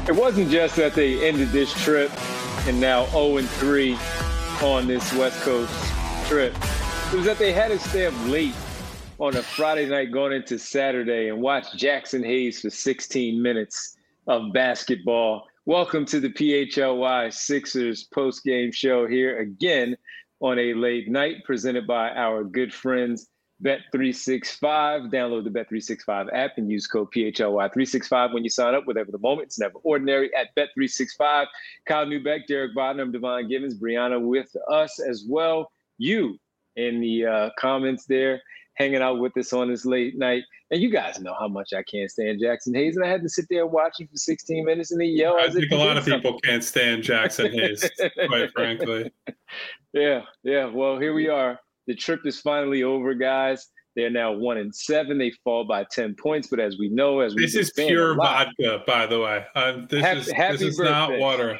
It wasn't just that they ended this trip and now 0-3 on this West Coast trip. It was that they had to stay up late on a Friday night going into Saturday and watch Jackson Hayes for 16 minutes of basketball. Welcome to the PHLY Sixers post-game show here again on a late night presented by our good friends Bet365. Download the Bet365 app and use code PHLY365 when you sign up. Whatever the moment, it's never ordinary at Bet365. Kyle Newbeck, Derek Bodner, Devon Givens, Brianna with us as well. You in the comments there, hanging out with us on this late night. And you guys know how much I can't stand Jackson Hayes. And I had to sit there and watch him for 16 minutes and they yell. I think a lot of people can't stand Jackson Hayes, quite frankly. Yeah. Well, here we are. The trip is finally over, guys. They're now 1-7. They fall by 10 points. But as we know, this is pure vodka, by the way. This is not water.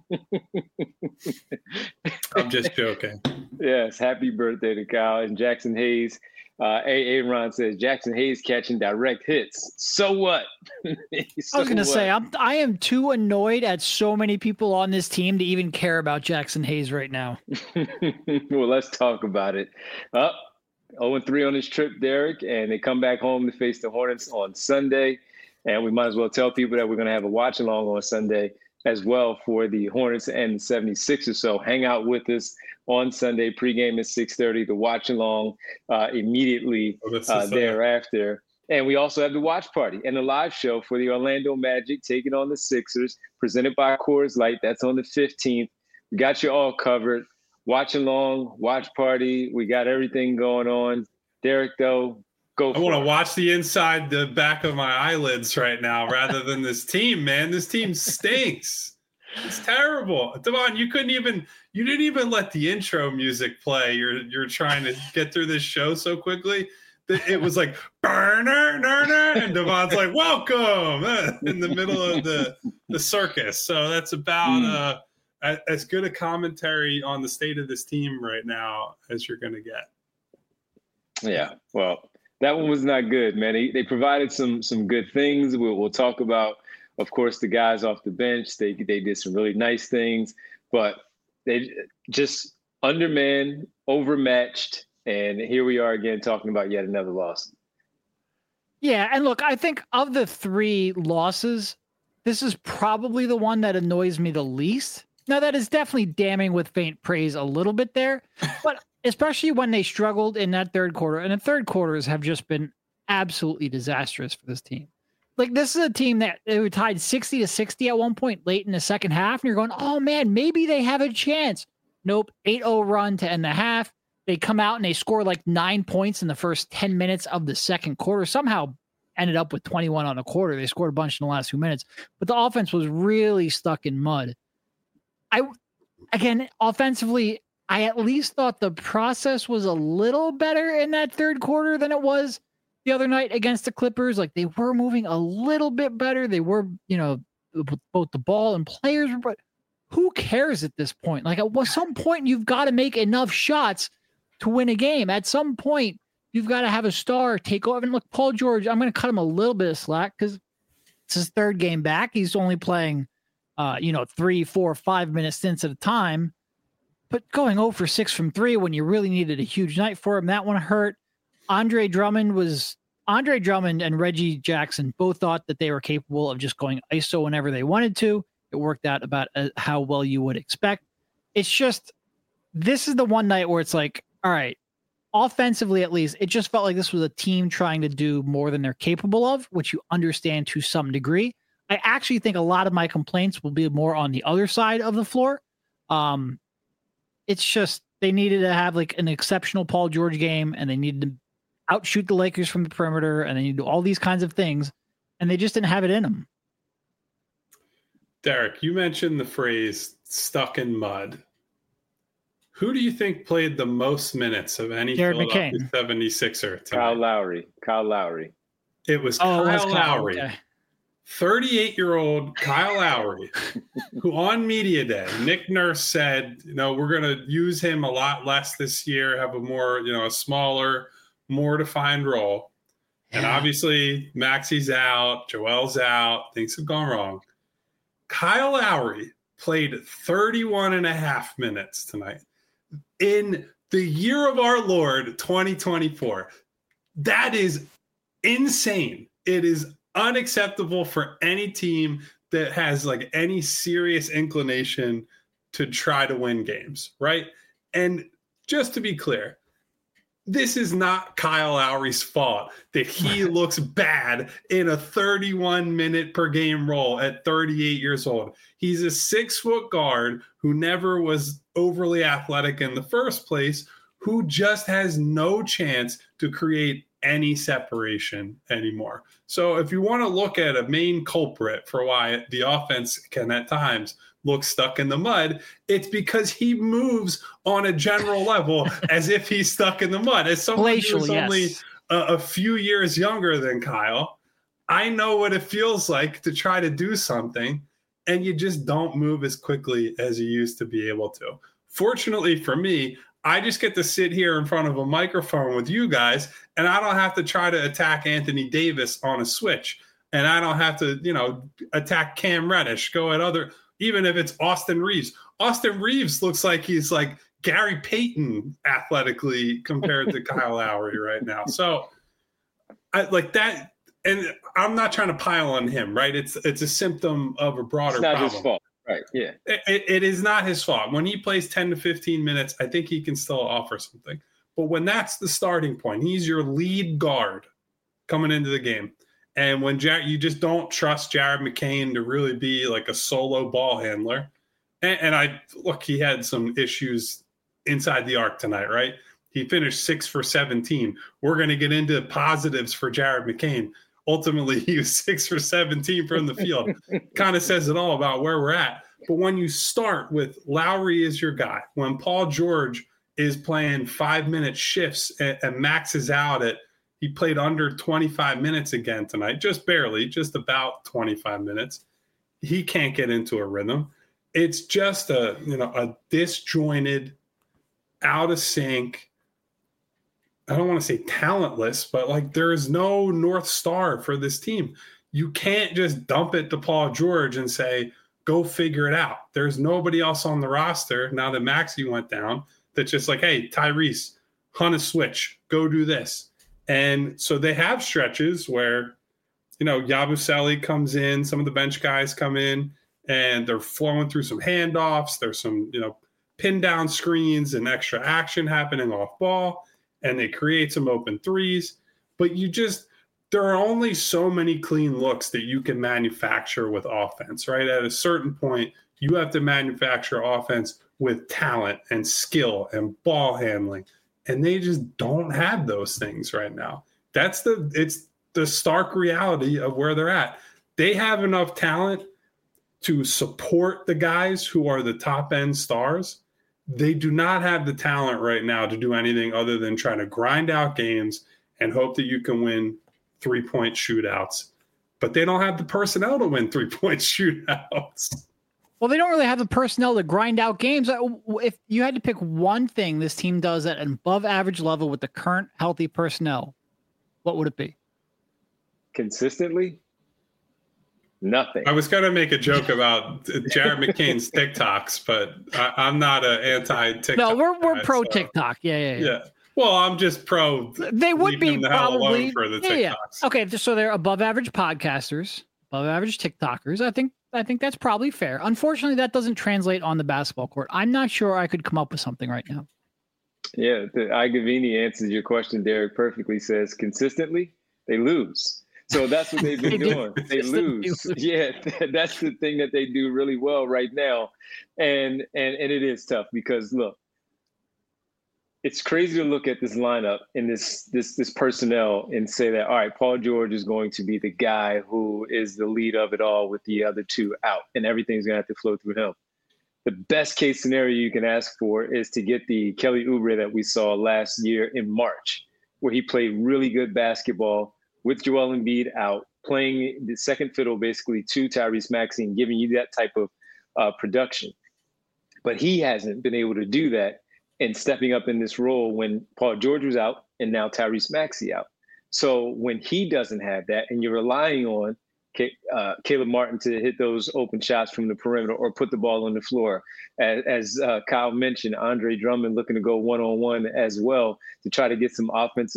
I'm just joking. Yes, happy birthday to Kyle and Jackson Hayes. Aaron says Jackson Hayes catching direct hits. So what? I was going to say I am too annoyed at so many people on this team to even care about Jackson Hayes right now. Well, let's talk about it. 0-3 on this trip, Derek, and they come back home to face the Hornets on Sunday. And we might as well tell people that we're going to have a watch along on Sunday as well for the Hornets and the 76ers. So hang out with us on Sunday, pregame at 6:30, the watch along immediately thereafter. And we also have the watch party and the live show for the Orlando Magic taking on the Sixers, presented by Coors Light. That's on the 15th. We got you all covered. Watch along, watch party. We got everything going on. Derek, though, go for it. I want to watch the back of my eyelids right now rather than this team, man. This team stinks. It's terrible. Devon, you didn't even let the intro music play. You're trying to get through this show so quickly that it was like burner, and Devon's like, welcome in the middle of the circus. So that's about as good a commentary on the state of this team right now as you're going to get. Yeah. Well, that one was not good, man. They provided some good things. We'll talk about, of course, the guys off the bench. They did some really nice things, but they just undermanned, overmatched, and here we are again talking about yet another loss. Yeah, and look, I think of the three losses, this is probably the one that annoys me the least. Now, that is definitely damning with faint praise a little bit there, but especially when they struggled in that third quarter, and the third quarters have just been absolutely disastrous for this team. Like, this is a team that they were tied 60-60 at one point late in the second half, and you're going, oh, man, maybe they have a chance. Nope, 8-0 run to end the half. They come out and they score like 9 points in the first 10 minutes of the second quarter. Somehow ended up with 21 on the quarter. They scored a bunch in the last 2 minutes, but the offense was really stuck in mud. Offensively, I at least thought the process was a little better in that third quarter than it was the other night against the Clippers. Like, they were moving a little bit better. They were, both the ball and players, but who cares at this point? Like, at some point, you've got to make enough shots to win a game. At some point, you've got to have a star take over. And look, Paul George, I'm going to cut him a little bit of slack because it's his third game back. He's only playing, 3, 4, 5 minute stints at a time. But going 0 for 6 from 3 when you really needed a huge night for him, that one hurt. Andre Drummond and Reggie Jackson both thought that they were capable of just going ISO whenever they wanted to. It worked out about how well you would expect. It's just, this is the one night where it's like, all right, offensively at least, it just felt like this was a team trying to do more than they're capable of, which you understand to some degree. I actually think a lot of my complaints will be more on the other side of the floor. It's just, they needed to have like an exceptional Paul George game, and they needed to outshoot the Lakers from the perimeter, and they need to do all these kinds of things, and they just didn't have it in them. Derek, you mentioned the phrase stuck in mud. Who do you think played the most minutes of any Philadelphia 76er tonight? Kyle Lowry. It was Kyle Lowry. Okay. 38-year-old Kyle Lowry, who on media day, Nick Nurse said, we're going to use him a lot less this year, have a more, a smaller, more defined role. And obviously Maxi's out, Joel's out, things have gone wrong. Kyle Lowry played 31 and a half minutes tonight in the year of our Lord 2024. That is insane. It is unacceptable for any team that has like any serious inclination to try to win games, right? And just to be clear, this is not Kyle Lowry's fault that he looks bad in a 31-minute per game role at 38 years old. He's a 6-foot guard who never was overly athletic in the first place, who just has no chance to create any separation anymore. So if you want to look at a main culprit for why the offense can at times look stuck in the mud, it's because he moves on a general level as if he's stuck in the mud. As someone who's only a few years younger than Kyle, I know what it feels like to try to do something and you just don't move as quickly as you used to be able to. Fortunately for me, I just get to sit here in front of a microphone with you guys, and I don't have to try to attack Anthony Davis on a switch, and I don't have to, attack Cam Reddish, go at other, even if it's Austin Reeves. Austin Reeves looks like he's like Gary Payton athletically compared to Kyle Lowry right now. So I like that, and I'm not trying to pile on him, right? It's a symptom of a broader problem. It's not his fault. Right. Yeah. It is not his fault. When he plays 10 to 15 minutes, I think he can still offer something. But when that's the starting point, he's your lead guard coming into the game. And when you just don't trust Jared McCain to really be like a solo ball handler. And he had some issues inside the arc tonight, right? He finished 6 for 17. We're going to get into positives for Jared McCain. Ultimately, he was 6 for 17 from the field. Kind of says it all about where we're at. But when you start with Lowry as your guy, when Paul George is playing 5-minute shifts and maxes out he played under 25 minutes again tonight, just barely, just about 25 minutes. He can't get into a rhythm. It's just a disjointed, out of sync, I don't want to say talentless, but like there is no North Star for this team. You can't just dump it to Paul George and say, go figure it out. There's nobody else on the roster now that Maxey went down that's just like, hey, Tyrese, hunt a switch, go do this. And so they have stretches where, Yabusele comes in, some of the bench guys come in, and they're flowing through some handoffs. There's some, pin down screens and extra action happening off ball. And they create some open threes, but there are only so many clean looks that you can manufacture with offense, right? At a certain point, you have to manufacture offense with talent and skill and ball handling, and they just don't have those things right now. It's the stark reality of where they're at. They have enough talent to support the guys who are the top end stars. They do not have the talent right now to do anything other than trying to grind out games and hope that you can win 3-point shootouts. But they don't have the personnel to win 3-point shootouts. Well, they don't really have the personnel to grind out games. If you had to pick one thing this team does at an above average level with the current healthy personnel, what would it be? Consistently? Nothing. I was going to make a joke about Jared McCain's TikToks, but I'm not an anti-TikTok. No, we're pro TikTok. Yeah. Well, I'm just pro. They would be probably for the TikToks. Yeah. Okay, so they're above average podcasters, above average TikTokers. I think that's probably fair. Unfortunately, that doesn't translate on the basketball court. I'm not sure I could come up with something right now. Yeah, Igavini answers your question. Derek perfectly says consistently they lose. So that's what they've been doing. They lose. Yeah, that's the thing that they do really well right now. And it is tough because, look, it's crazy to look at this lineup and this personnel and say that, all right, Paul George is going to be the guy who is the lead of it all with the other two out, and everything's going to have to flow through him. The best case scenario you can ask for is to get the Kelly Oubre that we saw last year in March, where he played really good basketball with Joel Embiid out, playing the second fiddle basically to Tyrese Maxey and giving you that type of production. But he hasn't been able to do that and stepping up in this role when Paul George was out and now Tyrese Maxey out. So when he doesn't have that and you're relying on Caleb Martin to hit those open shots from the perimeter or put the ball on the floor. As Kyle mentioned, Andre Drummond looking to go one-on-one as well to try to get some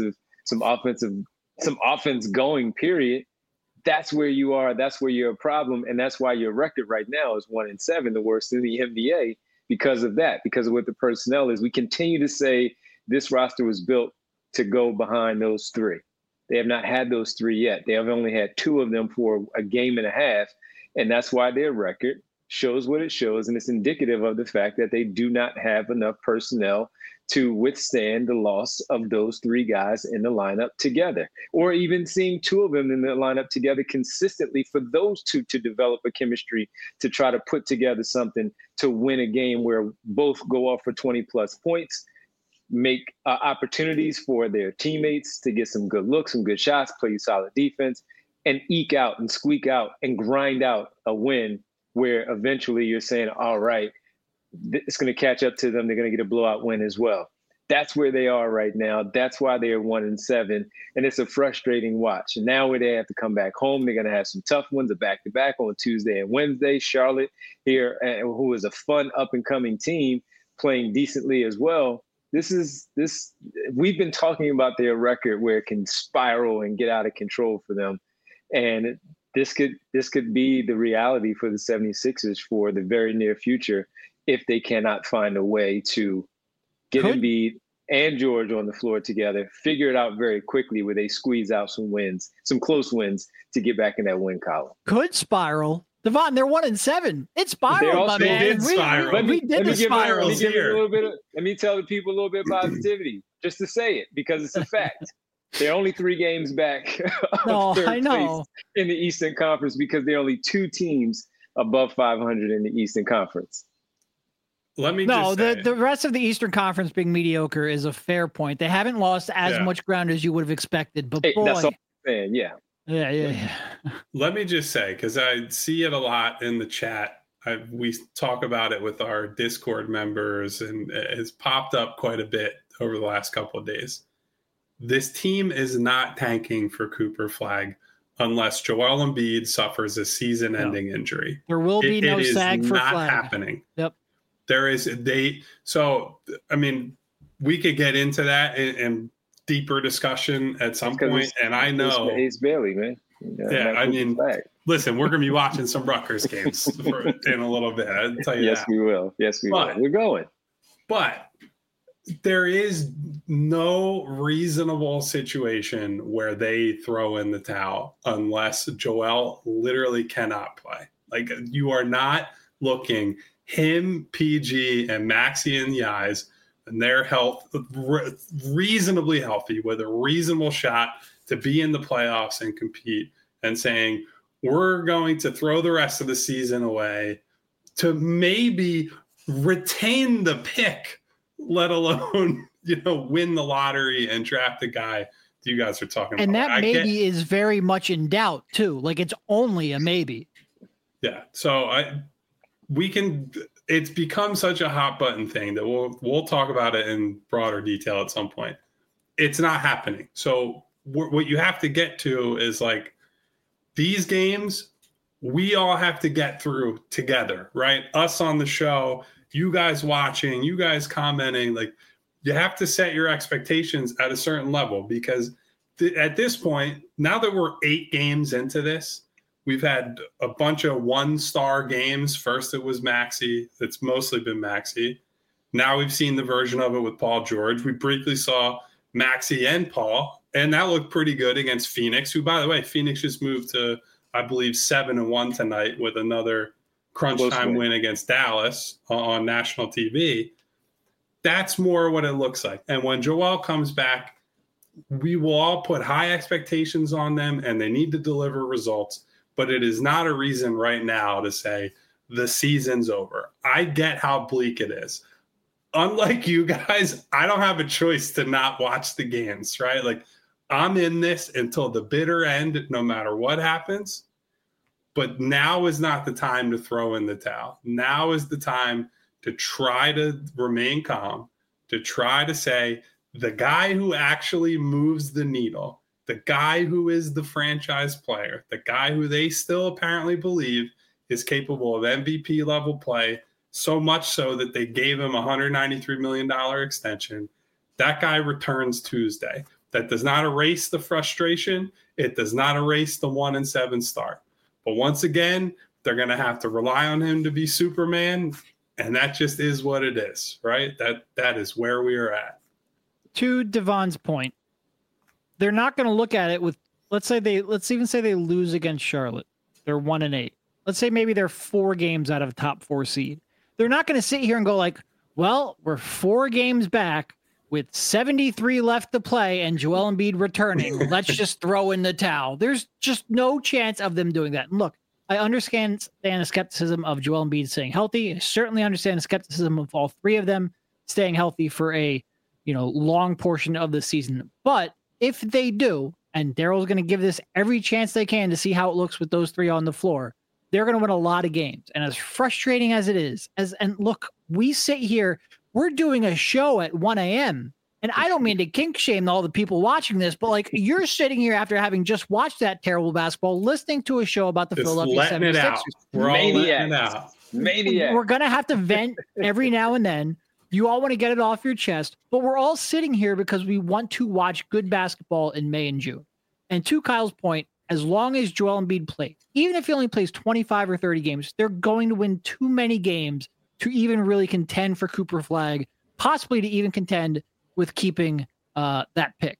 offense going, period. That's where you are. That's where you're a problem. And that's why your record right now is 1-7, the worst in the NBA because of that, because of what the personnel is. We continue to say this roster was built to go behind those three. They have not had those three yet. They have only had two of them for a game and a half. And that's why their record shows what it shows. And it's indicative of the fact that they do not have enough personnel to withstand the loss of those three guys in the lineup together, or even seeing two of them in the lineup together consistently for those two to develop a chemistry to try to put together something to win a game where both go off for 20 plus points, make opportunities for their teammates to get some good looks, some good shots, play solid defense, and eke out and squeak out and grind out a win where eventually you're saying, all right, it's going to catch up to them. They're going to get a blowout win as well. That's where they are right now. That's why they're 1-7. And it's a frustrating watch. And now where they have to come back home, they're going to have some tough ones, a back-to-back on Tuesday and Wednesday. Charlotte here, who is a fun up-and-coming team, playing decently as well. We've been talking about their record where it can spiral and get out of control for them. And this could be the reality for the 76ers for the very near future if they cannot find a way to get Embiid and George on the floor together, figure it out very quickly where they squeeze out some wins, some close wins to get back in that win column. Could spiral. Devon, they're 1-7. It spiraled, my man. Did spiral. Let me tell the people a little bit of positivity, just to say it, because it's a fact. They're only 3 games back of third place in the Eastern Conference because there are only 2 teams above 500 in the Eastern Conference. The rest of the Eastern Conference being mediocre is a fair point. They haven't lost as much ground as you would have expected, but boy, that's all I'm saying. Yeah. Let me just say, because I see it a lot in the chat. We talk about it with our Discord members, and it has popped up quite a bit over the last couple of days. This team is not tanking for Cooper Flag unless Joel Embiid suffers a season-ending injury. There will be no SAG for Flag. It is not happening. Yep. There is a date. So, I mean, we could get into that in deeper discussion at some point. And I know Ace Bailey, man. I mean, listen, we're going to be watching some Rutgers games in a little bit. I'll tell you that. We will. Yes, we will. We're going. But there is no reasonable situation where they throw in the towel unless Joel literally cannot play. Like, you are not looking him, PG, and Maxey in the eyes, and their health reasonably healthy with a reasonable shot to be in the playoffs and compete, and saying, we're going to throw the rest of the season away to maybe retain the pick, let alone, win the lottery and draft the guy you guys are talking about. And that maybe is very much in doubt too. Like, it's only a maybe. Yeah. So it's become such a hot button thing that we'll talk about it in broader detail at some point. It's not happening. So what you have to get to is, like, these games, we all have to get through together, right? Us on the show, you guys watching, you guys commenting, like, you have to set your expectations at a certain level, because at this point, now that we're 8 games into this, we've had a bunch of 1-star games. First, it was Maxey. It's mostly been Maxey. Now we've seen the version of it with Paul George. We briefly saw Maxey and Paul, and that looked pretty good against Phoenix, who, by the way, Phoenix just moved to, I believe, 7-1 tonight with another crunch time win against Dallas on national TV. That's more what it looks like. And when Joel comes back, we will all put high expectations on them, and they need to deliver results. But it is not a reason right now to say the season's over. I get how bleak it is. Unlike you guys, I don't have a choice to not watch the games, right? Like, I'm in this until the bitter end, no matter what happens. But now is not the time to throw in the towel. Now is the time to try to remain calm, to try to say the guy who actually moves the needle the guy who is the franchise player, the guy who they still apparently believe is capable of MVP level play, so much so that they gave him a $193 million extension. That guy returns Tuesday. That does not erase the frustration. It does not erase the 1-7 start. But once again, they're going to have to rely on him to be Superman, and that just is what it is, right? That is where we are at. To Devon's point, they're not going to look at it with, let's even say they lose against Charlotte. They're 1-8. Let's say maybe they're 4 games out of a top 4 seed. They're not going to sit here and go like, well, we're 4 games back with 73 left to play and Joel Embiid returning. Let's just throw in the towel. There's just no chance of them doing that. And look, I understand the skepticism of Joel Embiid staying healthy. I certainly understand the skepticism of all 3 of them staying healthy for a long portion of the season. But if they do, and Daryl's going to give this every chance they can to see how it looks with those 3 on the floor, they're going to win a lot of games. And as frustrating as it is, and look, we sit here, we're doing a show at 1 a.m. And I don't mean to kink shame all the people watching this, but like you're sitting here after having just watched that terrible basketball, listening to a show about the Philadelphia 76ers. We're all letting it out. Maniac. We're going to have to vent every now and then. You all want to get it off your chest, but we're all sitting here because we want to watch good basketball in May and June. And to Kyle's point, as long as Joel Embiid plays, even if he only plays 25 or 30 games, they're going to win too many games to even really contend for Cooper Flag, possibly to even contend with keeping that pick.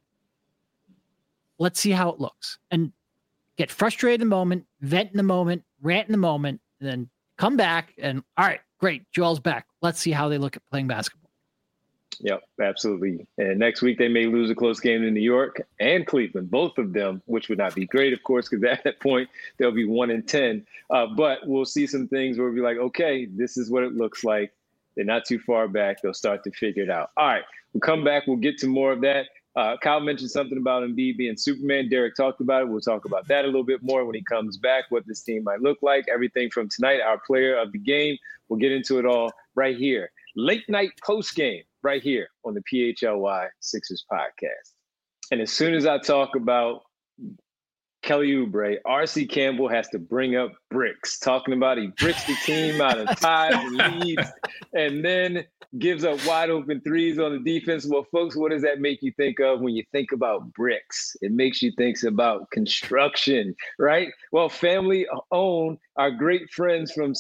Let's see how it looks. And get frustrated in the moment, vent in the moment, rant in the moment, and then come back and, all right, great, Joel's back. Let's see how they look at playing basketball. Yep, absolutely. And next week they may lose a close game in New York and Cleveland, both of them, which would not be great, of course, because at that point they'll be 1-10. But we'll see some things where we'll be like, okay, this is what it looks like. They're not too far back. They'll start to figure it out. All right, we'll come back. We'll get to more of that. Kyle mentioned something about Embiid being Superman. Derek talked about it. We'll talk about that a little bit more when he comes back, what this team might look like, everything from tonight, our player of the game. We'll get into it all right here. Late night post game right here on the PHLY Sixers podcast. And as soon as I talk about Kelly Oubre, RC Campbell has to bring up bricks, talking about he bricks the team out of ties and leads and then gives up wide open threes on the defense. Well, folks, what does that make you think of when you think about bricks? It makes you think about construction, right? Well, family owned, our great friends from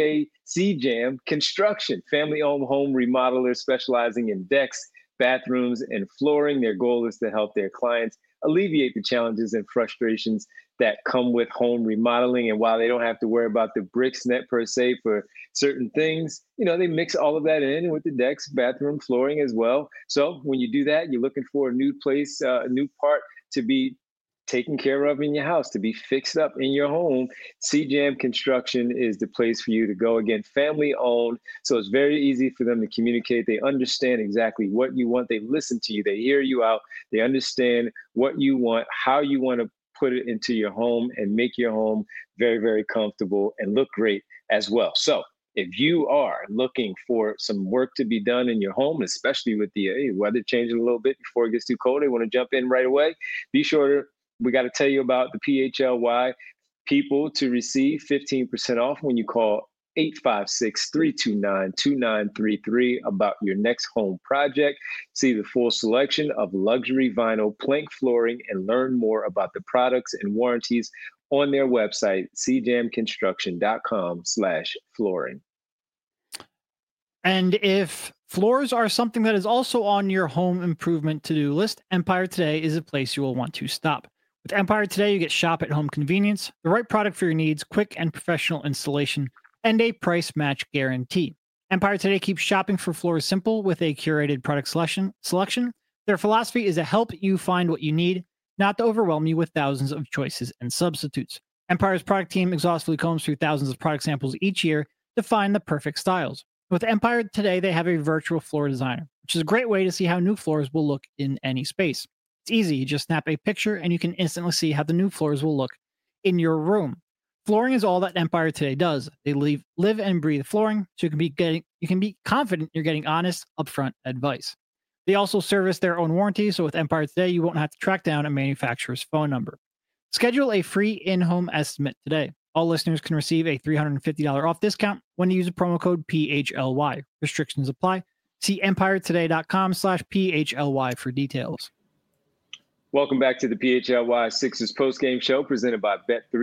CJAM Construction, family owned home remodelers specializing in decks, bathrooms, and flooring. Their goal is to help their clients alleviate the challenges and frustrations that come with home remodeling. And while they don't have to worry about the bricks net per se for certain things, they mix all of that in with the decks, bathroom, flooring as well. So when you do that, you're looking for a new place, a new part to be taken care of in your house, to be fixed up in your home. CJAM Construction is the place for you to go. Again, family owned. So it's very easy for them to communicate. They understand exactly what you want. They listen to you. They hear you out. They understand what you want, how you want to put it into your home and make your home very, very comfortable and look great as well. So if you are looking for some work to be done in your home, especially with the weather changing a little bit before it gets too cold, they want to jump in right away, be sure to we got to tell you about the PHLY people to receive 15% off when you call 856-329-2933 about your next home project. See the full selection of luxury vinyl plank flooring and learn more about the products and warranties on their website, cjamconstruction.com/flooring. And if floors are something that is also on your home improvement to-do list, Empire Today is a place you will want to stop. With Empire Today, you get shop at home convenience, the right product for your needs, quick and professional installation, and a price match guarantee. Empire Today keeps shopping for floors simple with a curated product selection. Their philosophy is to help you find what you need, not to overwhelm you with thousands of choices and substitutes. Empire's product team exhaustively combs through thousands of product samples each year to find the perfect styles. With Empire Today, they have a virtual floor designer, which is a great way to see how new floors will look in any space. It's easy. You just snap a picture and you can instantly see how the new floors will look in your room. Flooring is all that Empire Today does. They live and breathe flooring, so you can be confident you're getting honest, upfront advice. They also service their own warranty, so with Empire Today, you won't have to track down a manufacturer's phone number. Schedule a free in-home estimate today. All listeners can receive a $350 off discount when you use a promo code PHLY. Restrictions apply. See empiretoday.com/PHLY for details. Welcome back to the PHLY Sixers postgame show presented by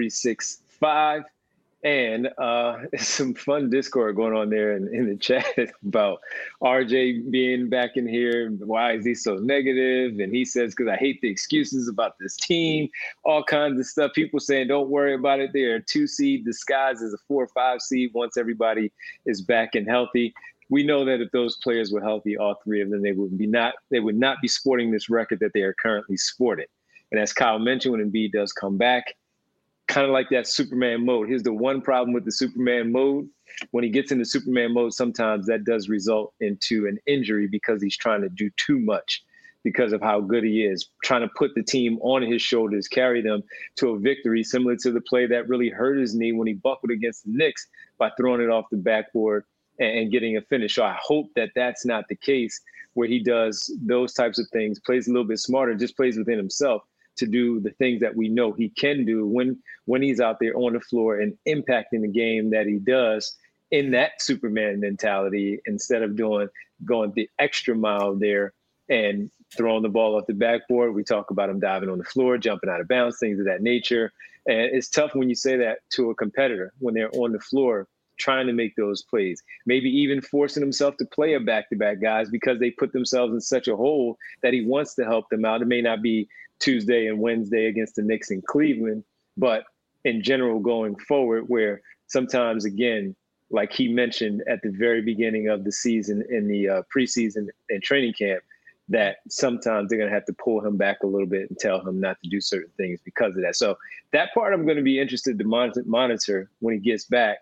Bet365. And some fun Discord going on there in the chat about RJ being back in here. Why is he so negative? And he says, because I hate the excuses about this team, all kinds of stuff. People saying, don't worry about it. They're a 2 seed disguised as a 4 or 5 seed once everybody is back and healthy. We know that if those players were healthy, all three of them, they would not be sporting this record that they are currently sporting. And as Kyle mentioned, when Embiid does come back, kind of like that Superman mode. Here's the one problem with the Superman mode. When he gets into Superman mode, sometimes that does result into an injury because he's trying to do too much because of how good he is, trying to put the team on his shoulders, carry them to a victory, similar to the play that really hurt his knee when he buckled against the Knicks by throwing it off the backboard and getting a finish. So I hope that that's not the case where he does those types of things, plays a little bit smarter, just plays within himself to do the things that we know he can do when he's out there on the floor and impacting the game that he does in that Superman mentality, instead of going the extra mile there and throwing the ball off the backboard. We talk about him diving on the floor, jumping out of bounds, things of that nature. And it's tough when you say that to a competitor when they're on the floor trying to make those plays, maybe even forcing himself to play a back-to-back guys because they put themselves in such a hole that he wants to help them out. It may not be Tuesday and Wednesday against the Knicks in Cleveland, but in general going forward, where sometimes, again, like he mentioned at the very beginning of the season in the preseason and training camp, that sometimes they're going to have to pull him back a little bit and tell him not to do certain things because of that. So that part I'm going to be interested to monitor when he gets back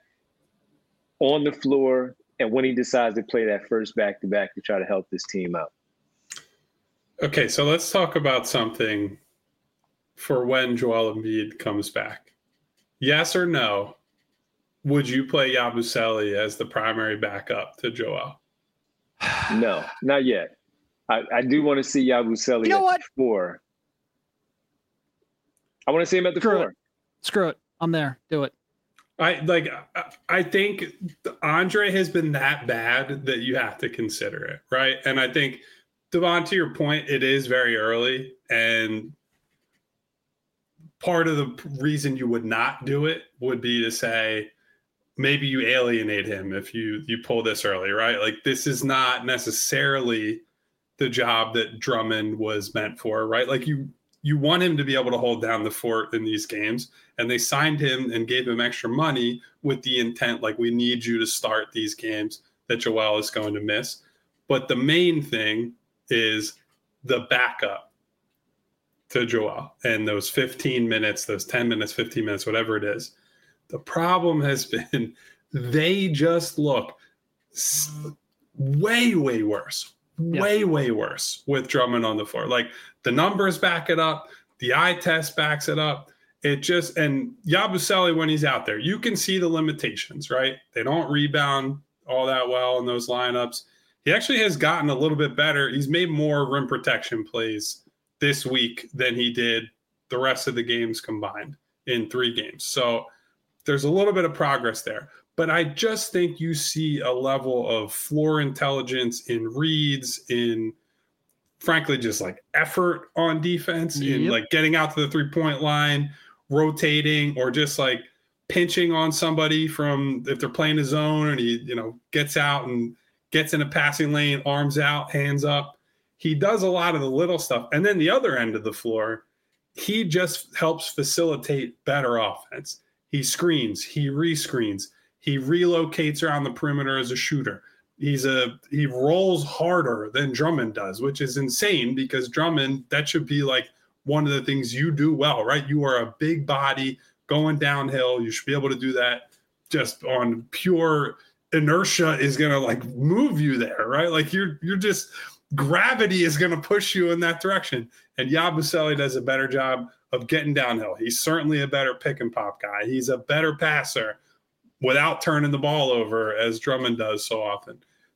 on the floor and when he decides to play that first back-to-back to try to help this team out. Okay, so let's talk about something for when Joel Embiid comes back. Yes or no, would you play Yabusele as the primary backup to Joel? No, not yet. I do want to see Yabusele at the 4. I want to see him at the 4. Screw it. I'm there. Do it. I think Andre has been that bad that you have to consider it, right? And I think, Devon, to your point, it is very early, and part of the reason you would not do it would be to say maybe you alienate him if you pull this early, right? Like, this is not necessarily the job that Drummond was meant for, right? Like, you want him to be able to hold down the fort in these games, and they signed him and gave him extra money with the intent, like, we need you to start these games that Joel is going to miss. But the main thing is the backup to Joel and those 15 minutes, those 10 minutes, 15 minutes, whatever it is. The problem has been they just look way, way worse. Way worse with Drummond on the floor. Like, the numbers back it up. The eye test backs it up. And Yabusele, when he's out there, you can see the limitations, right? They don't rebound all that well in those lineups. He actually has gotten a little bit better. He's made more rim protection plays this week than he did the rest of the games combined in 3 games. So there's a little bit of progress there. But I just think you see a level of floor intelligence in reads, in frankly just like effort on defense, in like getting out to the 3-point line, rotating, or just like pinching on somebody from if they're playing a zone and he, gets out and gets in a passing lane, arms out, hands up. He does a lot of the little stuff. And then the other end of the floor, he just helps facilitate better offense. He screens, he rescreens. He relocates around the perimeter as a shooter. He rolls harder than Drummond does, which is insane because Drummond, that should be like one of the things you do well, right? You are a big body going downhill. You should be able to do that just on pure inertia is going to like move you there, right? Like you're just, gravity is going to push you in that direction. And Yabusele does a better job of getting downhill. He's certainly a better pick and pop guy. He's a better passer without turning the ball over as Drummond does so often.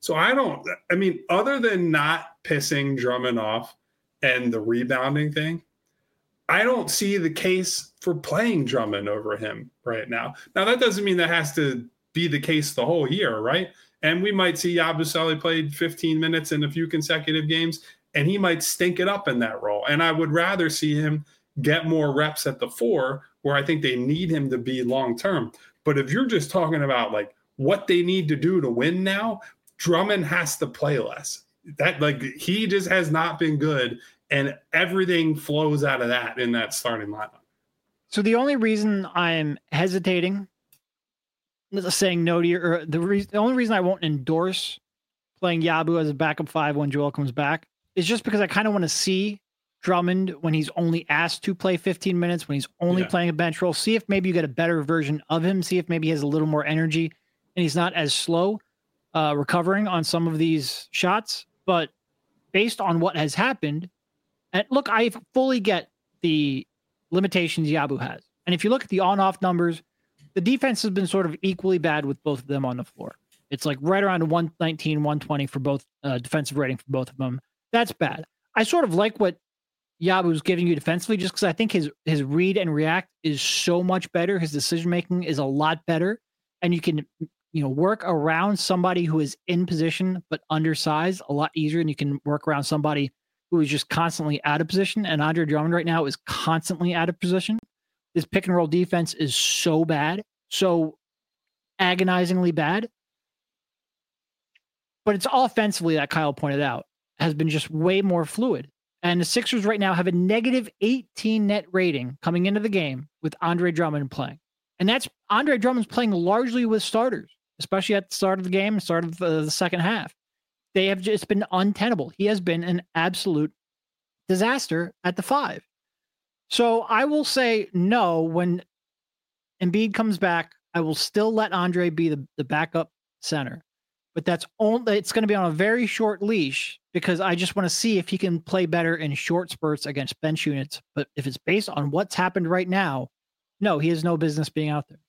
So other than not pissing Drummond off and the rebounding thing, I don't see the case for playing Drummond over him right now. Now, that doesn't mean that has to be the case the whole year, right? And we might see Yabusele played 15 minutes in a few consecutive games, and he might stink it up in that role. And I would rather see him get more reps at the 4, where I think they need him to be long-term. But if you're just talking about like what they need to do to win now, Drummond has to play less. He just has not been good, and everything flows out of that in that starting lineup. So the only reason I'm hesitating, saying no to the only reason I won't endorse playing Yabu as a backup 5 when Joel comes back is just because I kind of want to see Drummond when he's only asked to play 15 minutes, when he's only playing a bench role. See if maybe you get a better version of him. See if maybe he has a little more energy and he's not as slow recovering on some of these shots. But based on what has happened, and look, I fully get the limitations Yabu has. And if you look at the on-off numbers, the defense has been sort of equally bad with both of them on the floor. It's like right around 119, 120 for both defensive rating for both of them. That's bad. I sort of like what Yabu's giving you defensively just because I think his read and react is so much better. His decision-making is a lot better. And you can work around somebody who is in position but undersized a lot easier, and you can work around somebody who is just constantly out of position. And Andre Drummond right now is constantly out of position. His pick and roll defense is so bad, so agonizingly bad. But it's all offensively, that Kyle pointed out, has been just way more fluid. And the Sixers right now have a negative 18 net rating coming into the game with Andre Drummond playing. And that's Andre Drummond's playing largely with starters, especially at the start of the game, start of the second half. They have just been untenable. He has been an absolute disaster at the 5. So I will say no when Embiid comes back. I will still let Andre be the backup center, but it's going to be on a very short leash because I just want to see if he can play better in short spurts against bench units. But if it's based on what's happened right now, no, he has no business being out there.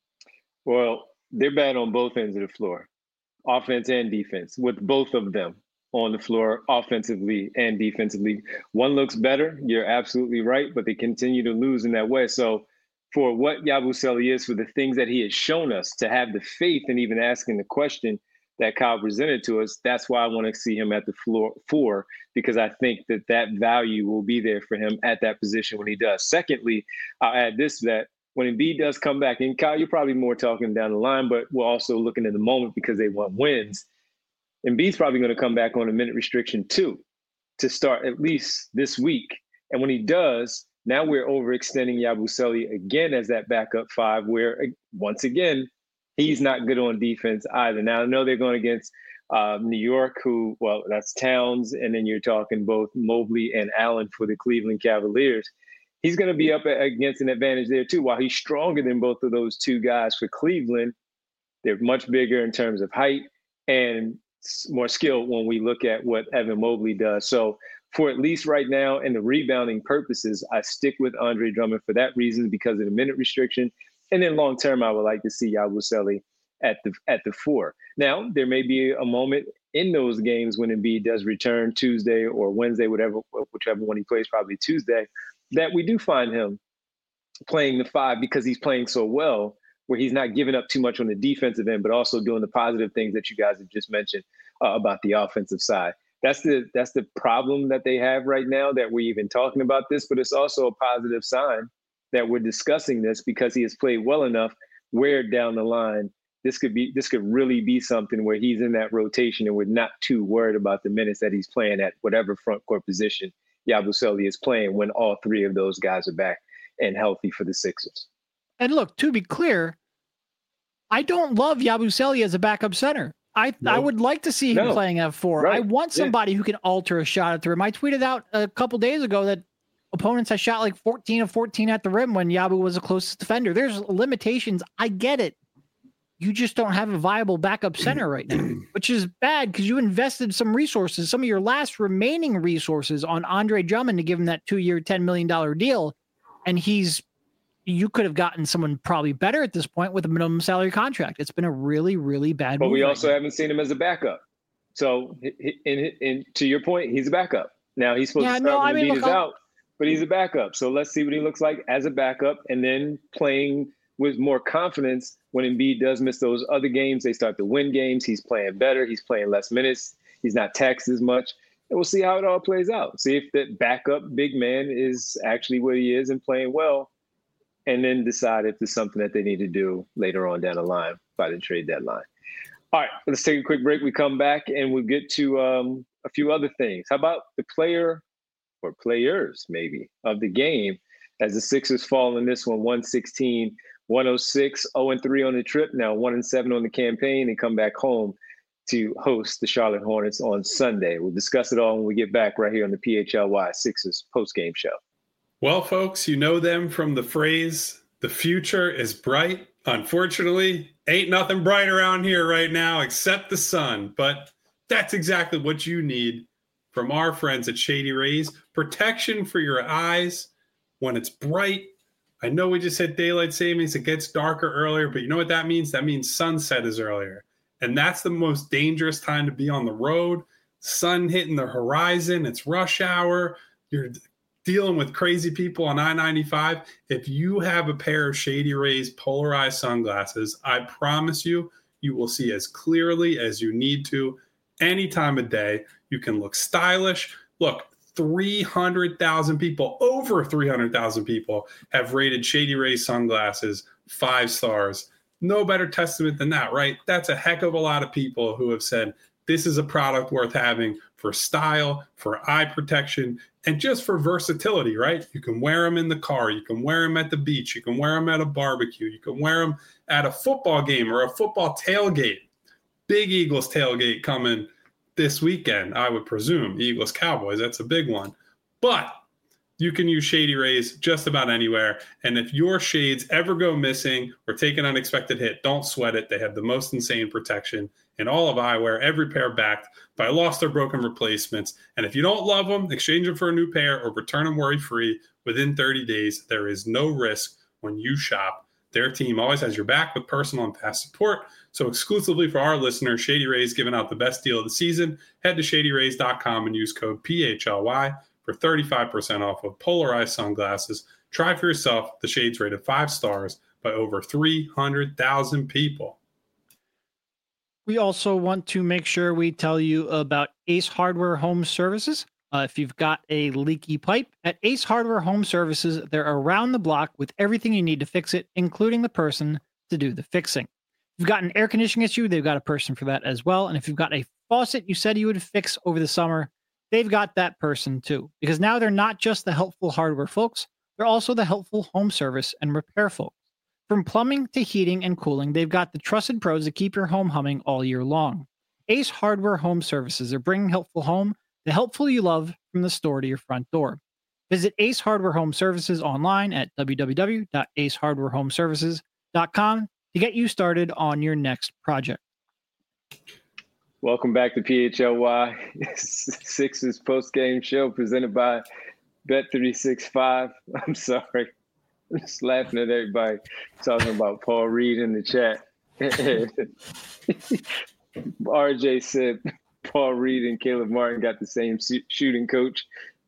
Well, they're bad on both ends of the floor, offense and defense, with both of them on the floor offensively and defensively. One looks better. You're absolutely right, but they continue to lose in that way. So for what Yabusele is, for the things that he has shown us, to have the faith and even asking the question that Kyle presented to us, that's why I want to see him at the floor 4, because I think that value will be there for him at that position when he does. Secondly, I'll add this, that when Embiid does come back, and Kyle, you're probably more talking down the line, but we're also looking at the moment because they want wins. Embiid's probably going to come back on a minute restriction too, to start at least this week. And when he does, now we're overextending Yabusele again as that backup 5, where once again, he's not good on defense either. Now, I know they're going against New York, that's Towns, and then you're talking both Mobley and Allen for the Cleveland Cavaliers. He's going to be up against an advantage there too. While he's stronger than both of those two guys for Cleveland, they're much bigger in terms of height and more skilled when we look at what Evan Mobley does. So for at least right now and the rebounding purposes, I stick with Andre Drummond for that reason, because of the minute restriction. And then long term, I would like to see Yabusele at the 4. Now, there may be a moment in those games when Embiid does return Tuesday or Wednesday, whichever one he plays, probably Tuesday, that we do find him playing the 5 because he's playing so well, where he's not giving up too much on the defensive end, but also doing the positive things that you guys have just mentioned about the offensive side. That's the problem that they have right now, that we're even talking about this, but it's also a positive sign that we're discussing this, because he has played well enough where down the line this could really be something where he's in that rotation and we're not too worried about the minutes that he's playing at whatever front court position Yabusele is playing when all 3 of those guys are back and healthy for the Sixers. And look, to be clear, I don't love Yabusele as a backup center. I would like to see him playing at 4. Right. I want somebody who can alter a shot at the rim. I tweeted out a couple days ago that opponents had shot like 14 of 14 at the rim when Yabu was the closest defender. There's limitations. I get it. You just don't have a viable backup center right now, which is bad because you invested some resources, some of your last remaining resources on Andre Drummond to give him that 2-year, $10 million deal. And you could have gotten someone probably better at this point with a minimum salary contract. It's been a really, really bad move. But we right also now. haven't seen him as a backup. So, and to your point, he's a backup. Now he's supposed to start when Embiid is out, but he's a backup. So let's see what he looks like as a backup, and then playing with more confidence when Embiid does miss those other games. They start to win games. He's playing better. He's playing less minutes. He's not taxed as much. And we'll see how it all plays out. See if that backup big man is actually what he is and playing well, and then decide if there's something that they need to do later on down the line by the trade deadline. All right, let's take a quick break. We come back and we'll get to a few other things. How about the player or players maybe of the game as the Sixers fall in this one, 116-106, 0-3 on the trip, now 1-7 on the campaign, and come back home to host the Charlotte Hornets on Sunday. We'll discuss it all when we get back right here on the PHLY Sixers postgame show. Well, folks, you know them from the phrase, the future is bright. Unfortunately, ain't nothing bright around here right now except the sun. But that's exactly what you need from our friends at Shady Rays. Protection for your eyes when it's bright. I know we just hit daylight savings. It gets darker earlier, but you know what that means? That means sunset is earlier. And that's the most dangerous time to be on the road. Sun hitting the horizon. It's rush hour. You're dealing with crazy people on I-95. If you have a pair of Shady Rays polarized sunglasses, I promise you, you will see as clearly as you need to any time of day. You can look stylish. Look, 300,000 people, over 300,000 people have rated Shady Rays sunglasses 5 stars. No better testament than that, right? That's a heck of a lot of people who have said, this is a product worth having for style, for eye protection, and just for versatility, right? You can wear them in the car. You can wear them at the beach. You can wear them at a barbecue. You can wear them at a football game or a football tailgate. Big Eagles tailgate coming this weekend, I would presume. Eagles Cowboys, that's a big one. But you can use Shady Rays just about anywhere. And if your shades ever go missing or take an unexpected hit, don't sweat it. They have the most insane protection in all of eyewear, every pair backed by lost or broken replacements. And if you don't love them, exchange them for a new pair or return them worry-free within 30 days. There is no risk when you shop. Their team always has your back with personal and fast support. So exclusively for our listeners, Shady Rays giving out the best deal of the season. Head to shadyrays.com and use code PHLY for 35% off of polarized sunglasses. Try for yourself. The shades rated 5 stars by over 300,000 people. We also want to make sure we tell you about Ace Hardware Home Services. If you've got a leaky pipe, at Ace Hardware Home Services, they're around the block with everything you need to fix it, including the person to do the fixing. If you've got an air conditioning issue, they've got a person for that as well. And if you've got a faucet you said you would fix over the summer, they've got that person too. Because now they're not just the helpful hardware folks, they're also the helpful home service and repair folks. From plumbing to heating and cooling, they've got the trusted pros that keep your home humming all year long. Ace Hardware Home Services are bringing helpful home, the helpful you love, from the store to your front door. Visit Ace Hardware Home Services online at www.aceHardwareHomeservices.com to get you started on your next project. Welcome back to PHLY Sixers post-game show presented by Bet365. I'm sorry. I'm just laughing at everybody talking about Paul Reed in the chat. RJ said Paul Reed and Caleb Martin got the same shooting coach.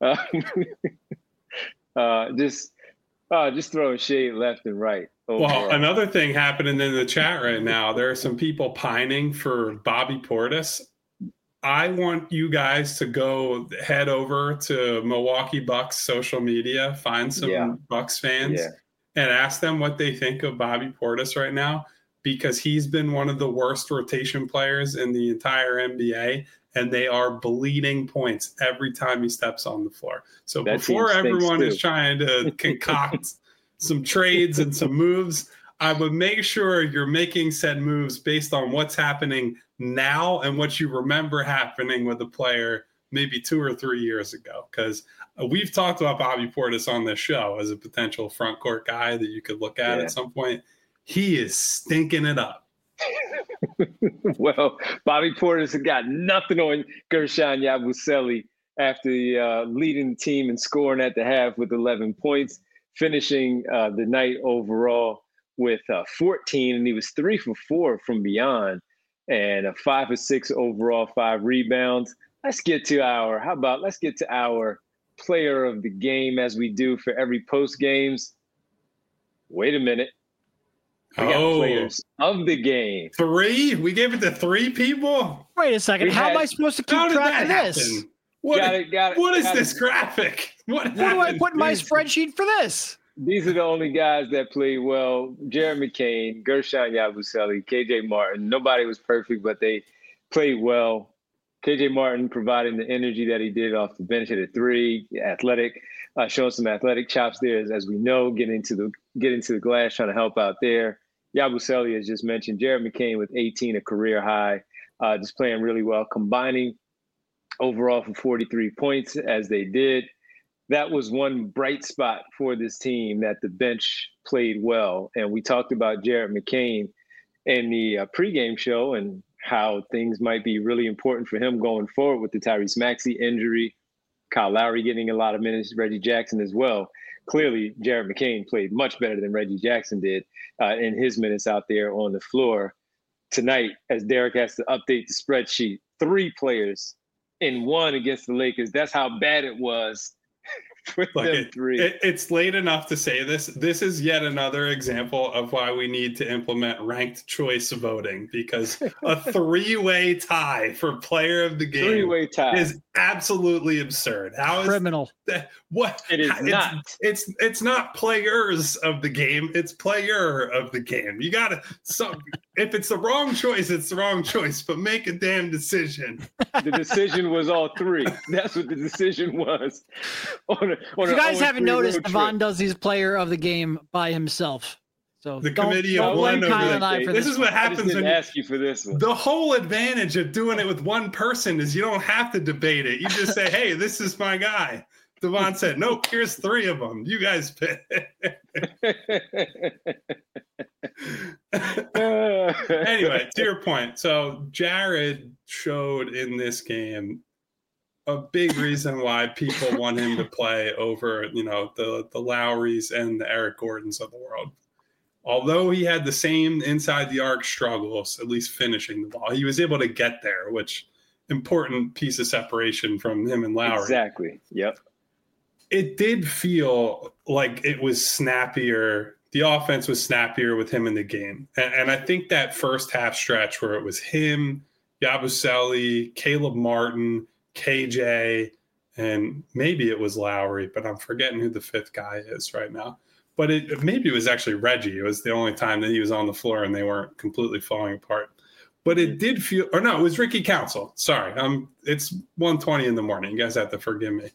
Just throwing shade left and right. Overall. Well, another thing happening in the chat right now, there are some people pining for Bobby Portis. I want you guys to go head over to Milwaukee Bucks social media, find some Bucks fans, and ask them what they think of Bobby Portis right now, because he's been one of the worst rotation players in the entire NBA, and they are bleeding points every time he steps on the floor. So that before everyone is trying to concoct some trades and some moves, I would make sure you're making said moves based on what's happening now and what you remember happening with the player maybe 2 or 3 years ago. Because we've talked about Bobby Portis on this show as a potential front court guy that you could look at some point. He is stinking it up. Well, Bobby Portis has got nothing on Gershon Yabusele after leading the team and scoring at the half with 11 points, finishing the night overall with 14, and he was 3 for 4 from beyond. and a 5 for 6 overall, 5 rebounds. Let's get to our player of the game, as we do for every post games. Wait a minute. We got players of the game. 3? We gave it to 3 people? Wait a second. How am I supposed to keep track of this? What is this graphic? What do I put in my spreadsheet for this? These are the only guys that played well. Jared McCain, Gershon Yabusele, KJ Martin. Nobody was perfect, but they played well. KJ Martin providing the energy that he did off the bench at a 3, athletic, showing some athletic chops there, as we know, getting into the glass, trying to help out there. Yabusele, as just mentioned, Jared McCain with 18, a career high, just playing really well, combining overall for 43 points as they did. That was one bright spot for this team, that the bench played well. And we talked about Jared McCain in the pregame show and how things might be really important for him going forward with the Tyrese Maxey injury, Kyle Lowry getting a lot of minutes, Reggie Jackson as well. Clearly, Jared McCain played much better than Reggie Jackson did in his minutes out there on the floor. Tonight, as Derek has to update the spreadsheet, 3 players in 1 against the Lakers. That's how bad it was. It's late enough to say this. This is yet another example of why we need to implement ranked choice voting, because a 3-way tie for player of the game 3-way tie is absolutely absurd. How is criminal? What it is not. It's not players of the game. It's player of the game. You gotta. So if it's the wrong choice, it's the wrong choice. But make a damn decision. The decision was all 3. That's what the decision was. If you guys haven't noticed, Devon does his player of the game by himself. So the committee of one over this is what happens when ask you for this one. The whole advantage of doing it with one person is you don't have to debate it. You just say, "Hey, this is my guy." Devon said, "Nope, here's 3 of them. You guys pick." Anyway, to your point. So Jared showed in this game a big reason why people want him to play over, the Lowrys and the Eric Gordons of the world. Although he had the same inside the arc struggles, at least finishing the ball, he was able to get there, which important piece of separation from him and Lowry. Exactly. Yep. It did feel like it was snappier. The offense was snappier with him in the game. And I think that first half stretch where it was him, Yabusele, Caleb Martin, KJ, and maybe it was Lowry, but I'm forgetting who the 5th guy is right now. But maybe it was actually Reggie. It was the only time that he was on the floor and they weren't completely falling apart. But it did feel, or no, it was Ricky Council. Sorry, it's 1:20 in the morning. You guys have to forgive me.